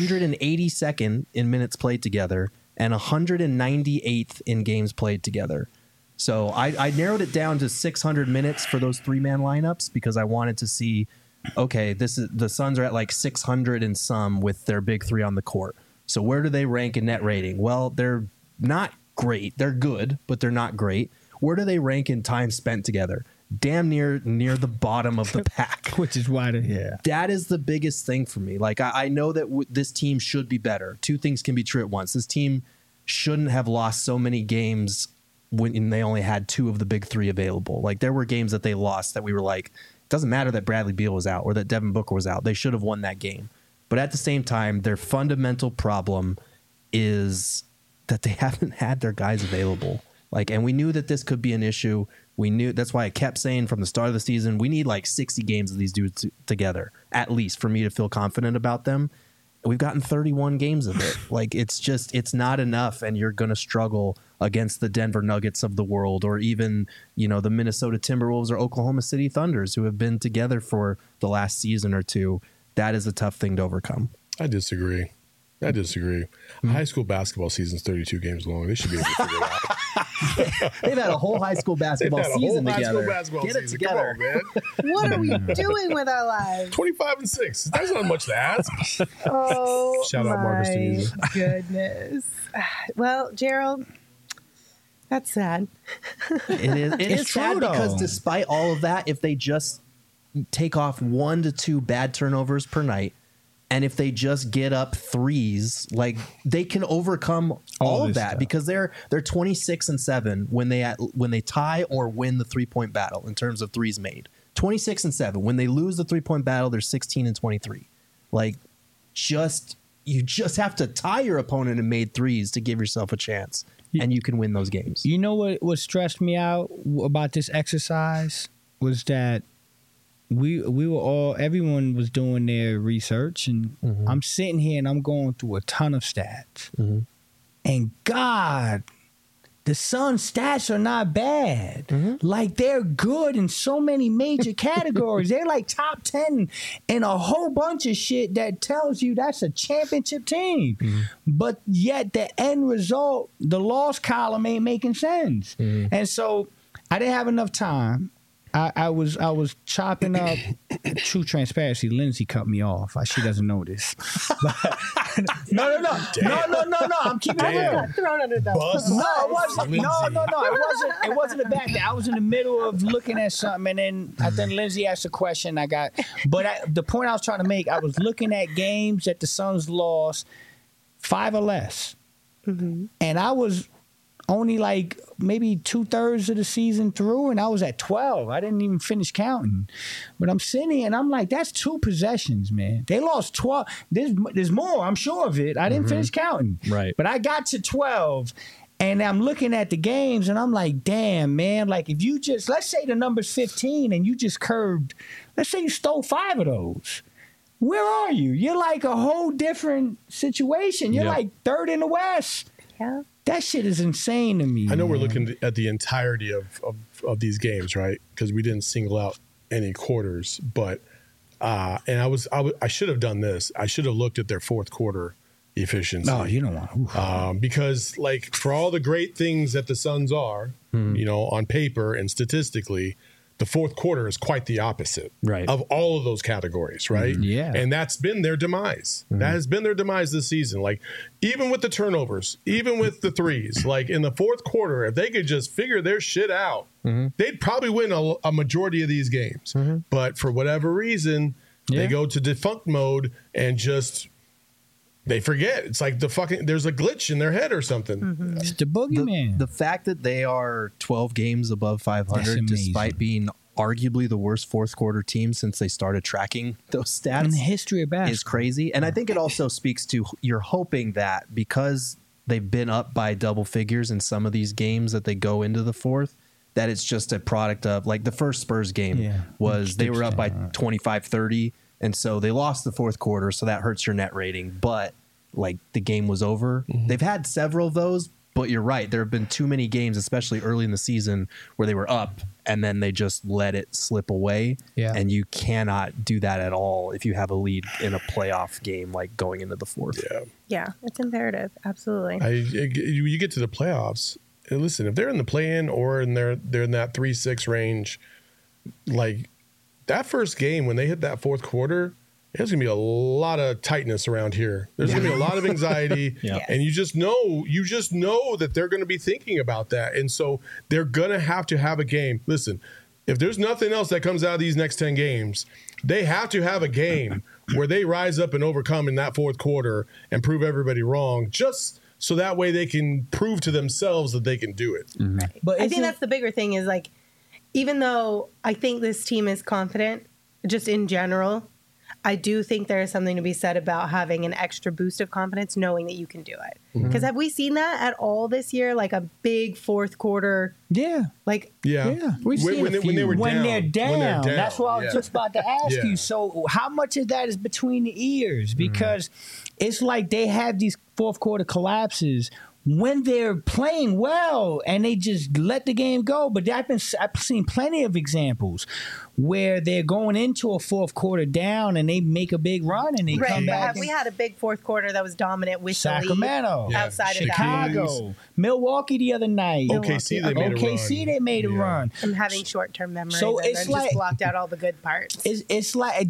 182nd in minutes played together, and 198th in games played together. So I narrowed it down to 600 minutes for those 3-man lineups because I wanted to see, okay, the Suns are at like 600 and some with their big three on the court. So where do they rank in net rating? Well, they're not great. They're good, but they're not great. Where do they rank in time spent together? Damn near the bottom of the pack. Which is why that is the biggest thing for me. Like I know that this team should be better. Two things can be true at once. This team shouldn't have lost so many games when they only had two of the big three available. Like there were games that they lost that we were like, it doesn't matter that Bradley Beal was out or that Devin Booker was out. They should have won that game. But at the same time, their fundamental problem is that they haven't had their guys available. Like, and we knew that this could be an issue. We knew that's why I kept saying from the start of the season, we need like 60 games of these dudes together, at least for me to feel confident about them. We've gotten 31 games of it. Like, it's not enough. And you're going to struggle against the Denver Nuggets of the world, or even, the Minnesota Timberwolves or Oklahoma City Thunders who have been together for the last season or two. That is a tough thing to overcome. I disagree. High school basketball season's 32 games long. They should be able to figure it out. They've had a whole high school basketball season together. Get it together, man. What are we doing with our lives? 25-6. That's not much to ask. Oh, shout out Marcus Denise. Goodness. Well, Gerald, that's sad. It is. It is true, sad though. because despite all of that, if they just take off 1 to 2 bad turnovers per night, and if they just get up threes, like they can overcome all of that because they're 26-7 when they tie or win the 3-point battle in terms of threes made. 26-7. When they lose the 3-point battle, they're 16-23. Like, you just have to tie your opponent and made threes to give yourself a chance, and you can win those games. You know what stressed me out about this exercise was that everyone was doing their research, and I'm sitting here and I'm going through a ton of stats. And God, the Suns' stats are not bad. Like, they're good in so many major categories. They're like top 10 in a whole bunch of shit that tells you that's a championship team. But yet the end result, the loss column ain't making sense. And so I didn't have enough time. I was chopping up. True transparency, Lindsay cut me off. She doesn't know this. No. I'm keeping it real. Thrown under the bus. No, it wasn't. It wasn't a bad thing. I was in the middle of looking at something, and then Lindsay asked a question. The point I was trying to make, I was looking at games that the Suns lost 5 or less, and I was only like maybe 2/3 of the season through, and I was at 12. I didn't even finish counting. But I'm sitting here and I'm like, that's 2 possessions, man. They lost 12. There's more, I'm sure of it. I didn't finish counting. Right. But I got to 12, and I'm looking at the games, and I'm like, damn, man. Like, if you just, let's say the number's 15, and you just curved, let's say you stole 5 of those. Where are you? You're like a whole different situation. You're like 3rd in the West. Yeah. That shit is insane to me. I know man. we're looking at the entirety of these games, right? Because we didn't single out any quarters, but and I should have done this. I should have looked at their fourth quarter efficiency. No, you don't want. Because like for all the great things that the Suns are, on paper and statistically, the fourth quarter is quite the opposite of all of those categories, right? Yeah. And that's been their demise. That has been their demise this season. Like even with the turnovers, even with the threes, like in the fourth quarter, if they could just figure their shit out, they'd probably win a majority of these games. But for whatever reason, they go to defunct mode and just they forget. It's like there's a glitch in their head or something. It's the boogeyman. The fact that they are 12 games above 500, despite being arguably the worst fourth quarter team since they started tracking those stats in the history of basketball is crazy. And I think it also speaks to you're hoping that because they've been up by double figures in some of these games that they go into the fourth, that it's just a product of like the first Spurs game was they were up by 25-30. And so they lost the fourth quarter, so that hurts your net rating. But like the game was over. They've had several of those, but you're right. There have been too many games, especially early in the season, where they were up and then they just let it slip away. Yeah. And you cannot do that at all if you have a lead in a playoff game, like going into the fourth. Yeah, it's imperative. Absolutely. You get to the playoffs. And listen, if they're in the play-in or they're in that 3-6 range, like that first game when they hit that fourth quarter, there's going to be a lot of tightness around here. There's going to be a lot of anxiety. And you just know that they're going to be thinking about that. And so they're going to have a game. Listen, if there's nothing else that comes out of these next 10 games, they have to have a game where they rise up and overcome in that fourth quarter and prove everybody wrong, just so that way they can prove to themselves that they can do it. Right. But I think that's the bigger thing is like, even though I think this team is confident, just in general, I do think there is something to be said about having an extra boost of confidence, knowing that you can do it. Because have we seen that at all this year? Like a big fourth quarter? Yeah. Like, We've seen a few. When they're down. That's what I was just about to ask you. So how much of that is between the ears? Because it's like they have these fourth quarter collapses when they're playing well and they just let the game go. But I've seen plenty of examples where they're going into a fourth quarter down and they make a big run and they come back. We had a big fourth quarter that was dominant with Sacramento, outside of Chicago, Milwaukee the other night. OKC, they made a run. I'm having short-term memory. So it's like just blocked out all the good parts. It's like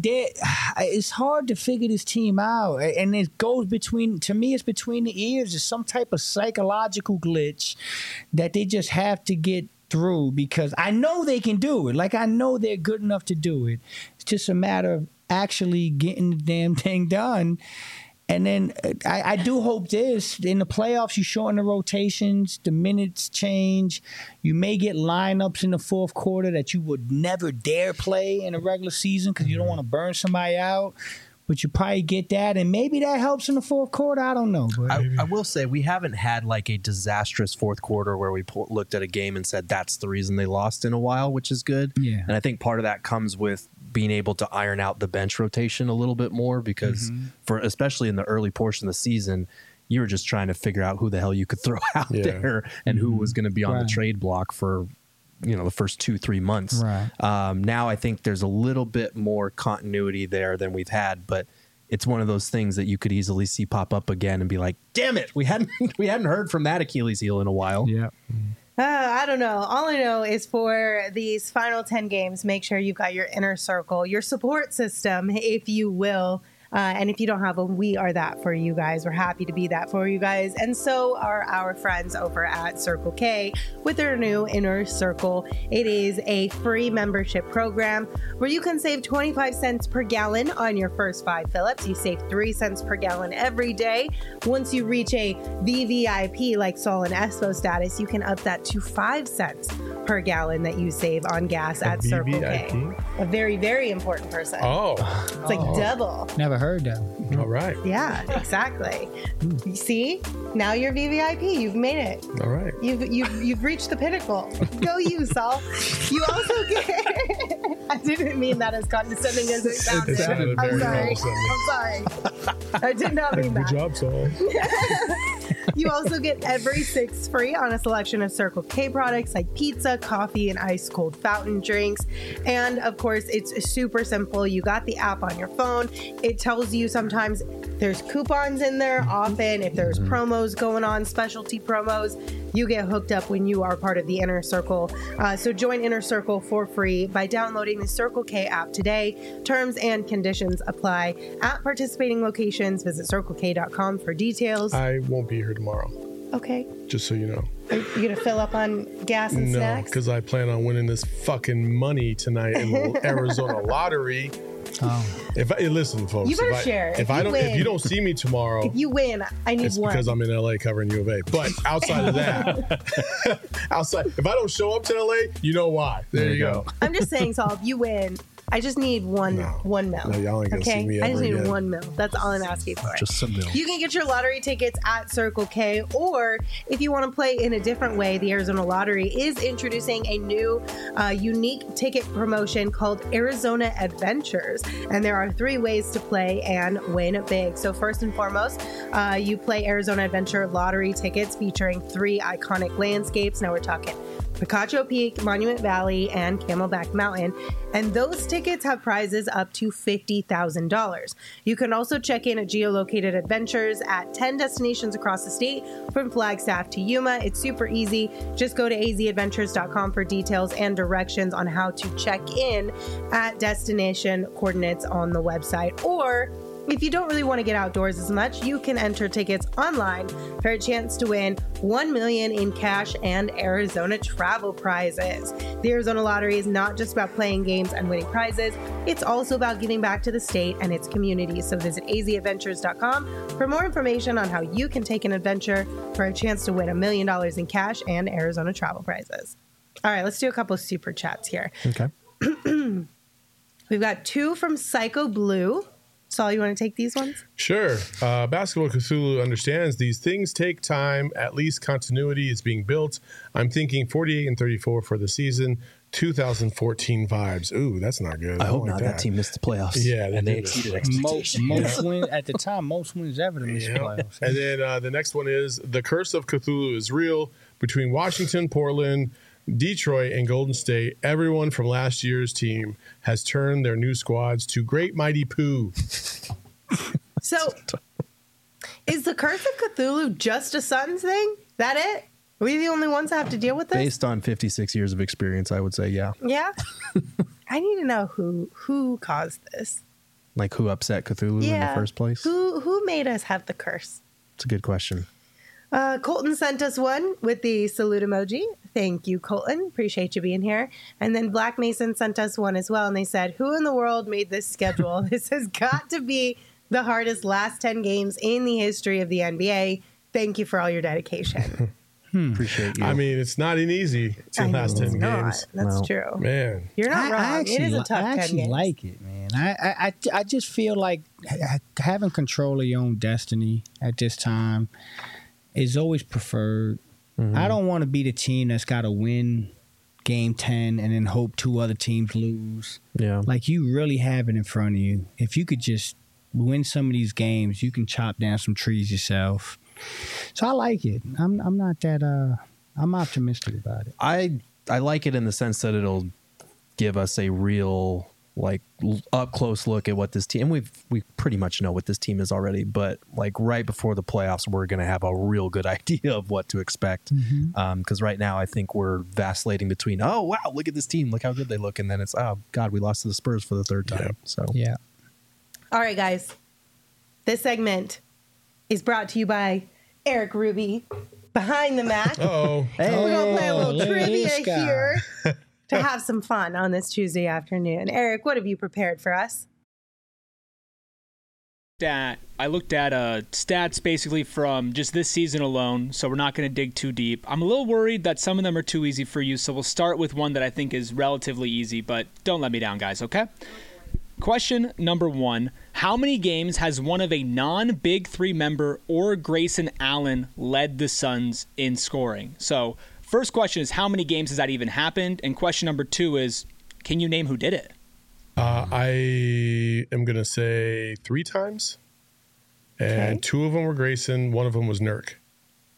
it's hard to figure this team out, and it goes between. To me, it's between the ears. It's some type of psychological glitch that they just have to get through, because I know they can do it. Like I know they're good enough to do it. It's just a matter of actually getting the damn thing done. And then I do hope this, in the playoffs, you shorten the rotations, the minutes change. You may get lineups in the fourth quarter that you would never dare play in a regular season because you don't want to burn somebody out. But you probably get that, and maybe that helps in the fourth quarter. I don't know. But I will say we haven't had like a disastrous fourth quarter where we looked at a game and said that's the reason they lost in a while, which is good. Yeah. And I think part of that comes with being able to iron out the bench rotation a little bit more, because especially in the early portion of the season, you were just trying to figure out who the hell you could throw out there and who was going to be on the trade block for the first 2-3 months. Now I think there's a little bit more continuity there than we've had, but it's one of those things that you could easily see pop up again and be like, damn it, we hadn't heard from that Achilles heel in a while. I don't know. All I know is for these final 10 games, make sure you've got your inner circle, your support system, if you will. And if you don't have one, we are that for you guys. We're happy to be that for you guys. And so are our friends over at Circle K with their new Inner Circle. It is a free membership program where you can save 25 cents per gallon on your first 5 fill-ups. You save 3 cents per gallon every day. Once you reach a VVIP like Saul and Espo status, you can up that to 5 cents per gallon that you save on gas at Circle K. A very, very important person. It's like double. Never heard that. All right. Yeah, exactly. You see, now you're VVIP. You've made it. All right. You've reached the pinnacle. Go you, Saul. You also get. I didn't mean that as condescending as it sounded. I'm sorry. I did not mean that. Good job, Saul. You also get every 6 free on a selection of Circle K products like pizza, coffee, and ice cold fountain drinks. And of course, it's super simple. You got the app on your phone. It tells you sometimes there's coupons in there. Often, if there's promos going on, specialty promos, you get hooked up when you are part of the Inner Circle. So join Inner Circle for free by downloading the Circle K app today. Terms and conditions apply. At participating locations, visit CircleK.com for details. I won't be here tomorrow, Okay. just so you know. Are you going to fill up on gas and No, snacks? because I plan on winning this fucking money tonight in the Arizona lottery. Oh. Listen, folks. You better if I, share. If If I you don't, win. if you don't see me tomorrow, If you win, I need it's one. because I'm in LA covering U of A. But outside of that, if I don't show up to LA, you know why. There you go. I'm just saying, Saul, if you win, I just need one No. mil. No, y'all ain't gonna okay? see me I just ever need again. 1 mil. That's all I'm asking for. Just some milk. You can get your lottery tickets at Circle K, or if you want to play in a different way, the Arizona Lottery is introducing a new unique ticket promotion called Arizona Adventures. And there are 3 ways to play and win big. So first and foremost, you play Arizona Adventure lottery tickets featuring 3 iconic landscapes. Now we're talking Picacho Peak, Monument Valley, and Camelback Mountain. And those tickets have prizes up to $50,000. You can also check in at geolocated adventures at 10 destinations across the state, from Flagstaff to Yuma. It's super easy. Just go to azadventures.com for details and directions on how to check in at destination coordinates on the website. Or if you don't really want to get outdoors as much, you can enter tickets online for a chance to win $1 million in cash and Arizona travel prizes. The Arizona Lottery is not just about playing games and winning prizes. It's also about giving back to the state and its community. So visit azadventures.com for more information on how you can take an adventure for a chance to win $1 million in cash and Arizona travel prizes. All right, let's do a couple of super chats here. Okay. We've got 2 from Psycho Blue. Saul, you want to take these ones? Sure. Basketball Cthulhu understands these things take time. At least continuity is being built. I'm thinking 48 and 34 for the season. 2014 vibes. Ooh, that's not good. I hope don't like not. That team missed the playoffs. Yeah, and they did. exceeded Most expectations. wins at the time. Most wins ever to miss the Yeah. playoffs. And then the next one is The Curse of Cthulhu is real. Between Washington, Portland, Detroit, and Golden State, everyone from last year's team has turned their new squads to great mighty poo. So, is the Curse of Cthulhu just a Suns thing? That it? Are we the only ones that have to deal with this? Based on 56 years of experience, I would say, yeah. Yeah. I need to know who caused this. Like who upset Cthulhu in the first place? Who made us have the curse? It's a good question. Colton sent us one with the salute emoji. Thank you, Colton. Appreciate you being here. And then Black Mason sent us one as well. And they said, who in the world made this schedule? This has got to be the hardest last 10 games in the history of the NBA. Thank you for all your dedication. Appreciate you. I mean, it's not an easy I know last 10 it's not. games. That's No. true. Man. You're not wrong. It is a tough 10 I actually games. like it, man. I just feel like having control of your own destiny at this time is always preferred. I don't want to be the team that's got to win game 10 and then hope 2 other teams lose. yeah. Like, you really have it in front of you. If you could just win some of these games, you can chop down some trees yourself. So I like it. I'm not that I'm optimistic about it. I like it in the sense that it'll give us a real like up close look at what this team, and we pretty much know what this team is already, but like right before the playoffs we're going to have a real good idea of what to expect, because right now I think we're vacillating between, oh wow, look at this team, look how good they look, and then it's, oh god, we lost to the Spurs for the 3rd time. Yep. So Yeah. All right, guys. This segment is brought to you by Eric Ruby, Behind the Mat. Oh, We're going to play a little look at trivia this guy. here to have some fun on this Tuesday afternoon. Eric, what have you prepared for us? I looked at stats basically from just this season alone, so we're not going to dig too deep. I'm a little worried that some of them are too easy for you, so we'll start with one that I think is relatively easy, but don't let me down, guys, okay? Question number 1. How many games has one of a non-Big Three member or Grayson Allen led the Suns in scoring? So first question is, how many games has that even happened? And question number 2 is, can you name who did it? I am going to say 3 times. And Okay. 2 of them were Grayson. 1 of them was Nurk.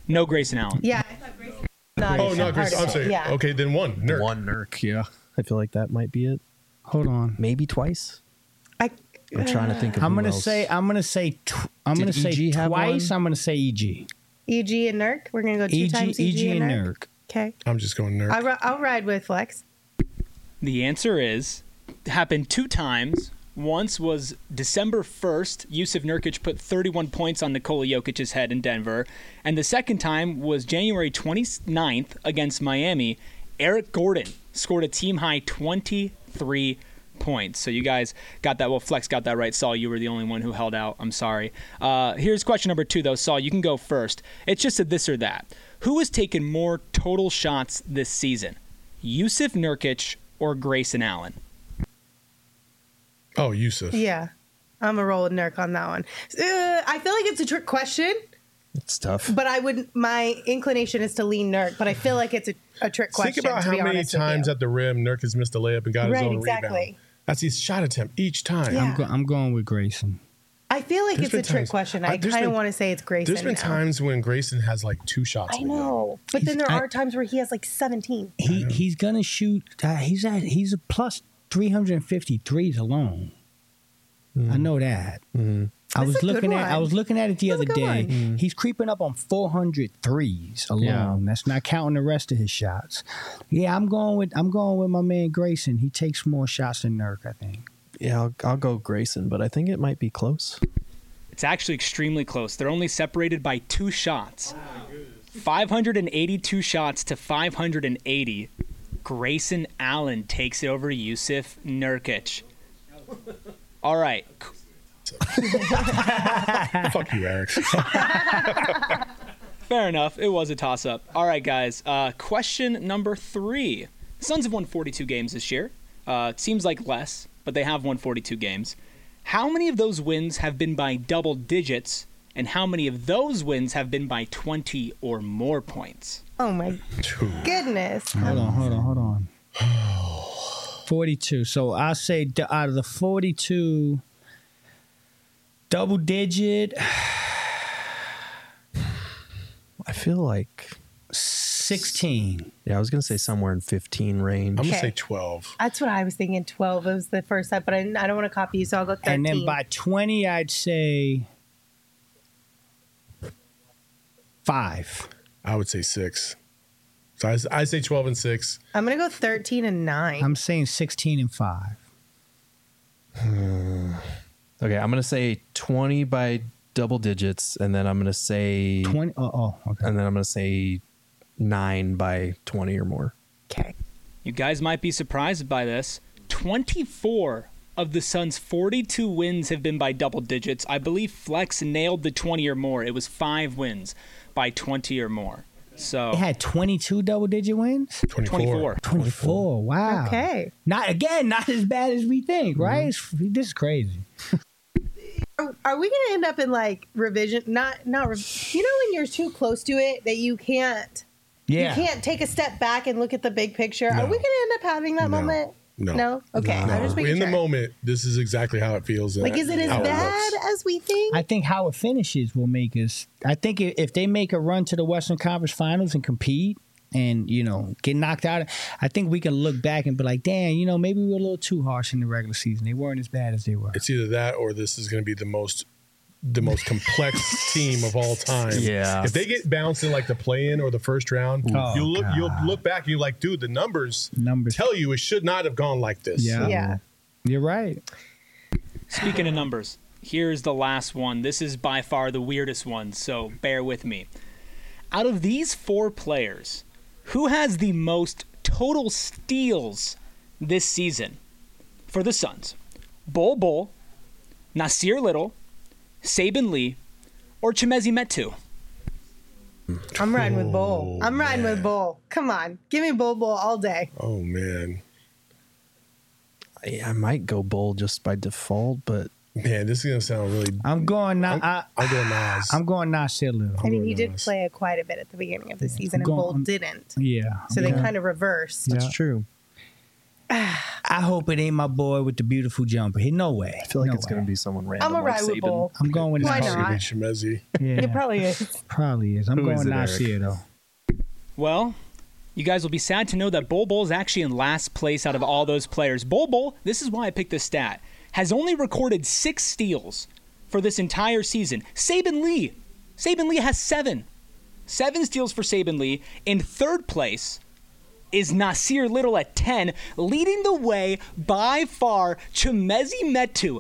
No Grayson Allen. Yeah, I thought Grayson was not Oh, a not part Grace. of I'm it. sorry. Yeah. Okay, then one. Nurk. One Nurk, yeah. I feel like that might be it. Hold on. Maybe twice. I'm trying to think of I'm who gonna else. say Did EG have twice. one? I'm gonna say EG. EG and Nurk. We're gonna go two times EG and Nurk. Okay. I'm just going Nurk. I'll ride with Flex. The answer is happened 2 times. Once was December 1st. Yusuf Nurkic put 31 points on Nikola Jokic's head in Denver. And the second time was January 29th against Miami. Eric Gordon scored a team-high 23 points. So you guys got that. Well, Flex got that right. Saul, you were the only one who held out. I'm sorry. Here's question number 2, though. Saul, you can go first. It's just a this or that. Who has taken more total shots this season? Yusuf Nurkic or Grayson Allen? Oh, Yusuf. Yeah. I'm a roll with Nurk on that one. I feel like it's a trick question, It's tough. but my inclination is to lean Nurk, but I feel like it's a trick question. Think about to how be many honest with times you. at the rim Nurk has missed a layup and got his Right, own exactly. rebound. That's his shot attempt each time. Yeah. I'm going with Grayson. I feel like There's it's a been trick times- question. there's I kind of been- want to say it's Grayson. There's been now. times when Grayson has like 2 shots. I in a game. know, but then there are times where he has like 17. He's gonna shoot. He's a plus 353s alone. I know that. I That's was a good looking at. I one. was looking at it the That's a other good day. one. He's creeping up on 400 threes alone. Yeah. That's not counting the rest of his shots. Yeah, I'm going with my man Grayson. He takes more shots than Nurk, I think. Yeah, I'll go Grayson, but I think it might be close. It's actually extremely close. They're only separated by 2 shots. 582 shots to 580. Grayson Allen takes it over Yusuf Nurkic. All right. Fuck you, Eric. Fair enough. It was a toss-up. All right, guys. Question number 3. The Suns have won 42 games this year. It seems like less, but they have won 42 games. How many of those wins have been by double digits, and how many of those wins have been by 20 or more points? Oh my goodness. Hold on. 42. So I'll say out of the 42, double digit, I feel like 16. I was gonna say somewhere in 15 range. I'm gonna Okay. say 12. That's what I was thinking. 12 was the first set, but I don't want to copy you, so I'll go 13. And then by 20, I'd say 5. I would say 6. So I say 12 and 6. I'm going to go 13 and 9. I'm saying 16 and 5. Okay, I'm gonna say 20 by double digits, and then I'm gonna say 20. Okay. and then I'm gonna say 9 by 20 or more. Okay. You guys might be surprised by this. 24 of the Suns' 42 wins have been by double digits. I believe Flex nailed the 20 or more. It was 5 wins by 20 or more. So It had 22 double digit wins? 24. 24. Wow. Okay. Not as bad as we think, right? This is crazy. Are we going to end up in like revision? You know when you're too close to it that you can't Yeah. you can't take a step back and look at the big picture? Are No. we going to end up having that No. moment? No. Okay. No. I'm just making In sure. the moment, this is exactly how it feels. Like, is it as how bad looks. as we think? I think how it finishes will make us. I think if they make a run to the Western Conference Finals and compete and, get knocked out, I think we can look back and be like, damn, maybe we were a little too harsh in the regular season. They weren't as bad as they were. It's either that or this is going to be the most complex team of all time. Yeah. If they get bounced in like the play-in or the first round, Oh, you'll God. look back and you're like, dude, the numbers Numbers. tell you it should not have gone like this. Yeah. Yeah. You're right. Speaking of numbers, here's the last one. This is by far the weirdest one, so bear with me. Out of these 4 players, who has the most total steals this season for the Suns? Bol Bol, Nasir Little, Saban Lee, or Chimezi Metu? I'm riding with Bull. I'm riding with Bull. Come on. Give me Bull all day. Oh man, I might go Bull just by default, but man, this is gonna sound really. I'm going now. I'm going Nas. I'm going Nasir Little. I mean, he did Nice. play it quite a bit at the beginning of the season, and Go Bull on. didn't. Yeah. So they kind of reversed. that's true. I I hope it ain't my boy with the beautiful jumper. No way. I feel like No it's way. going to be someone random. I'm a like ride with Saban. Bull. I'm going with Why Nasir. not? Shemezi. Yeah, It probably is. probably is. I'm Who is going it, Eric? Nasir though. Well, you guys will be sad to know that Bol is actually in last place out of all those players. Bol, this is why I picked this stat, has only recorded 6 steals for this entire season. Saban Lee has 7. 7 steals for Saban Lee. In third place is Nasir Little at 10, leading the way by far. Chemezi Metu,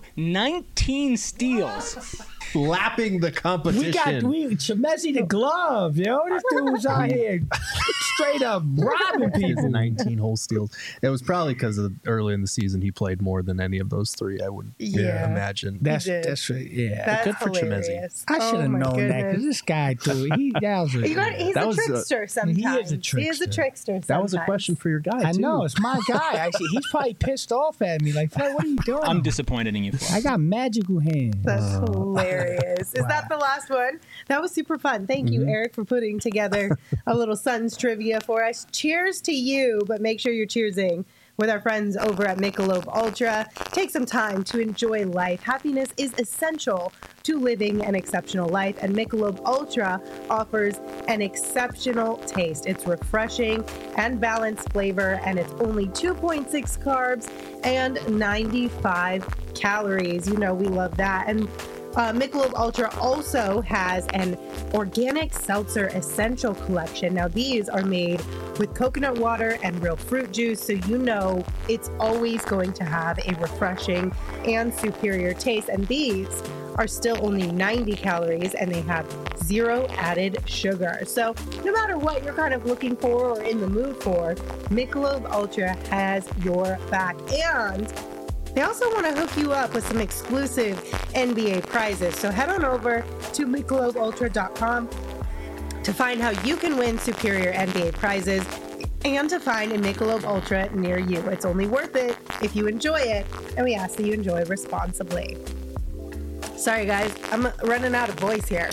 19 steals. Lapping the competition. Chemezi the glove, yo. This dude was out here straight up robbing people. 19 whole steals. It was probably because early in the season he played more than any of those 3. I would imagine. That's did. yeah. That's good for Chemezi. hilarious. I should have Oh my known that because goodness. this guy threw it. He's That a was, trickster sometimes. he is a He is a trickster. trickster sometimes. that was a question for your guy, I too. know it's my guy. Actually, he's probably pissed off at me. Like, Fred, what are you doing? I'm disappointed in you, Flo. I got magical hands. That's hilarious. Is that the last one? That was super fun. Thank you, Eric, for putting together a little Suns trivia for us. Cheers to you, but make sure you're cheersing with our friends over at Michelob Ultra. Take some time to enjoy life. Happiness is essential to living an exceptional life, and Michelob Ultra offers an exceptional taste. It's refreshing and balanced flavor, and it's only 2.6 carbs and 95 calories. You know, we love that. And Michelob Ultra also has an organic seltzer essential collection. Now, these are made with coconut water and real fruit juice, so you know it's always going to have a refreshing and superior taste. And these are still only 90 calories, and they have 0 added sugar. So no matter what you're kind of looking for or in the mood for, Michelob Ultra has your back. And they also want to hook you up with some exclusive NBA prizes. So head on over to MichelobUltra.com to find how you can win superior NBA prizes and to find a Michelob Ultra near you. It's only worth it if you enjoy it, and we ask that you enjoy responsibly. Sorry, guys, I'm running out of voice here.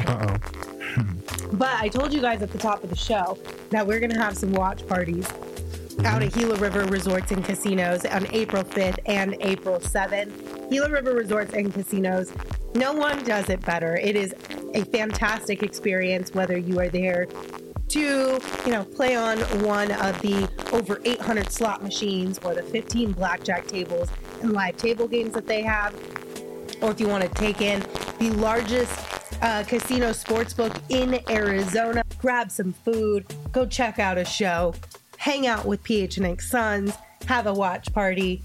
But I told you guys at the top of the show that we're going to have some watch parties out at Gila River Resorts and Casinos on April 5th and April 7th. Gila River Resorts and Casinos, no one does it better. It is a fantastic experience, whether you are there to, play on one of the over 800 slot machines or the 15 blackjack tables and live table games that they have, or if you want to take in the largest casino sportsbook in Arizona, grab some food, go check out a show, hang out with PHNX Suns, have a watch party.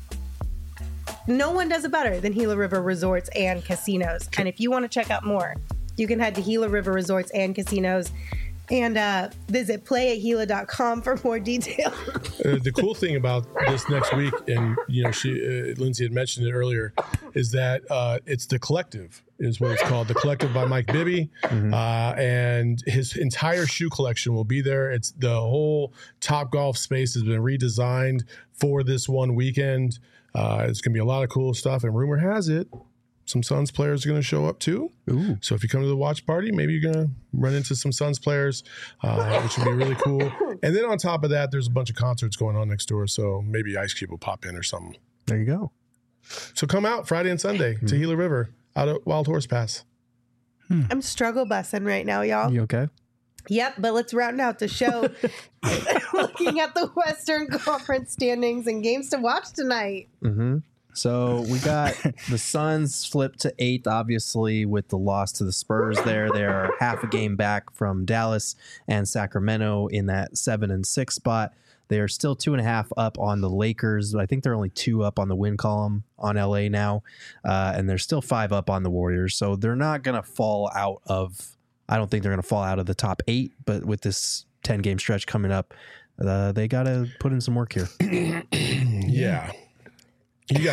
No one does it better than Gila River Resorts and Casinos. And if you want to check out more, you can head to Gila River Resorts and Casinos and visit playatgila.com for more details. The cool thing about this next week, and Lindsay had mentioned it earlier, is that it's the Collective, is what it's called. The Collective by Mike Bibby, and his entire shoe collection will be there. It's the whole Top Golf space has been redesigned for this one weekend. It's going to be a lot of cool stuff, and rumor has it, some Suns players are going to show up too. Ooh. So if you come to the watch party, maybe you're going to run into some Suns players, which would be really cool. And then on top of that, there's a bunch of concerts going on next door. So maybe Ice Cube will pop in or something. There you go. So come out Friday and Sunday to Gila River out at Wild Horse Pass. I'm struggle bussing right now, y'all. You okay? Yep, but let's round out the show looking at the Western Conference standings and games to watch tonight. So we got the Suns flipped to 8th, obviously, with the loss to the Spurs there. They're half a game back from Dallas and Sacramento in that 7 and 6 spot. They are still 2.5 up on the Lakers. I think they're only 2 up on the win column on LA now. And they're still 5 up on the Warriors. So they're not going to fall out of, I don't think they're going to fall out of the top 8. But with this 10-game stretch coming up, they got to put in some work here. Yeah. You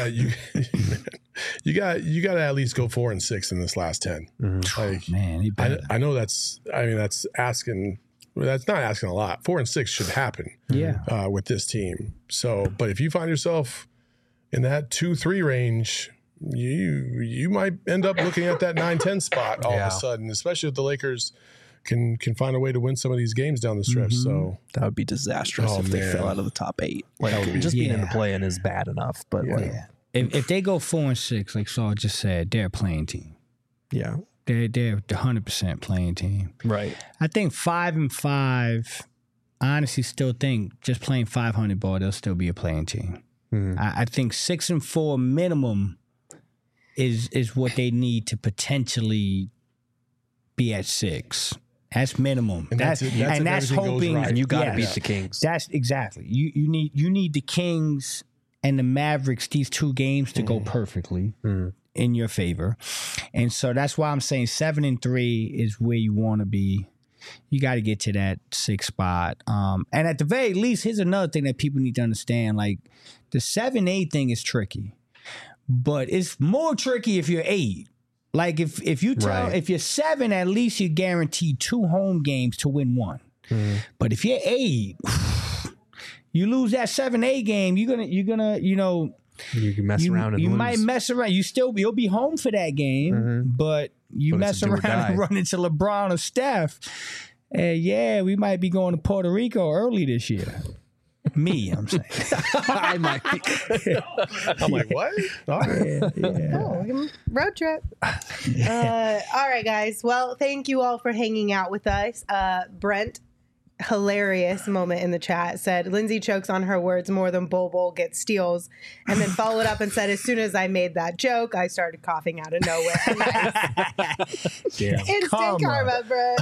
got to at least go 4 and 6 in this last 10. Like, Man, he better. I know that's asking. That's not asking a lot. 4 and 6 should happen. Yeah. With this team. So, but if you find yourself in that 2-3 range, you might end up looking at that 9-10 spot all of a sudden, especially if the Lakers can find a way to win some of these games down the stretch. So That would be disastrous Oh, if they man. fell out of the top 8. Like, just being in the play-in is bad enough, but If they go 4-6, like Saul just said, they're a playing team. yeah. They're 100% playing team. Right. I think 5-5. I honestly still think just playing 500 ball, they'll still be a playing team. I think 6-4 minimum is what they need to potentially be at 6. That's minimum. And that's that's if everything goes hoping. right. And you got to Yes. beat the Kings. That's exactly. You need the Kings and the Mavericks, these 2 games to go perfectly in your favor. And so that's why I'm saying 7-3 is where you want to be. You got to get to that 6th spot. And at the very least, here's another thing that people need to understand. Like the 7-8 thing is tricky, but it's more tricky if you're 8. Like if you tell Right. if you're 7, at least you're guaranteed 2 home games to win 1. But if you're 8, you lose that 7-8 game, you're gonna You can mess around and you lose. might mess around. You'll be home for that game, but you But mess it's a do or around and die. run into LeBron or Steph. And yeah, we might be going to Puerto Rico early this year. Me, I'm saying. I might be. I'm like, what? All right. Oh, road trip. All right, guys. Well, thank you all for hanging out with us. Brent, hilarious moment in the chat, said Lindsay chokes on her words more than Bol Bol gets steals, and then followed up and said, as soon as I made that joke, I started coughing out of nowhere. Nice. Damn. Instant karma, Brent.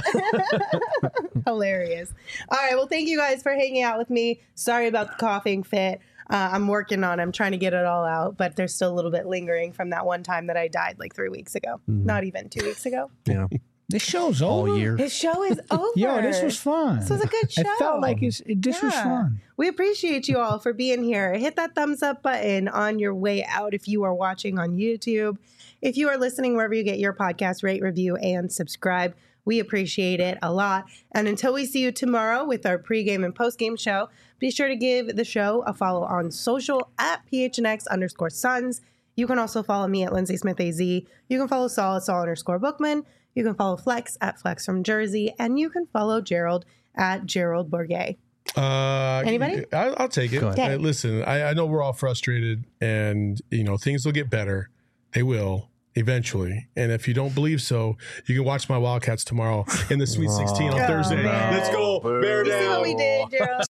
Hilarious. All right. Well, thank you guys for hanging out with me. Sorry about the coughing fit. I'm working on it. I'm trying to get it all out, but there's still a little bit lingering from that one time that I died like 3 weeks ago. Not even 2 weeks ago. Yeah. This show's over. All year. His show is over. Yo, this was fun. This was a good show. It felt like this was Yeah. fun. We appreciate you all for being here. Hit that thumbs up button on your way out if you are watching on YouTube. If you are listening wherever you get your podcast, rate, review, and subscribe. We appreciate it a lot. And until we see you tomorrow with our pregame and postgame show, be sure to give the show a follow on social at PHNX_Suns. You can also follow me at Lindsay Smith AZ. You can follow Saul at Saul_Bookman. You can follow Flex at Flex from Jersey. And you can follow Gerald at Gerald Bourget. Anybody? I'll take it. Go ahead. Listen, I know we're all frustrated, and things will get better. They will eventually. And if you don't believe so, you can watch my Wildcats tomorrow in the Sweet 16 on Thursday. man. Let's go, Bear You see down. what we did, Gerald?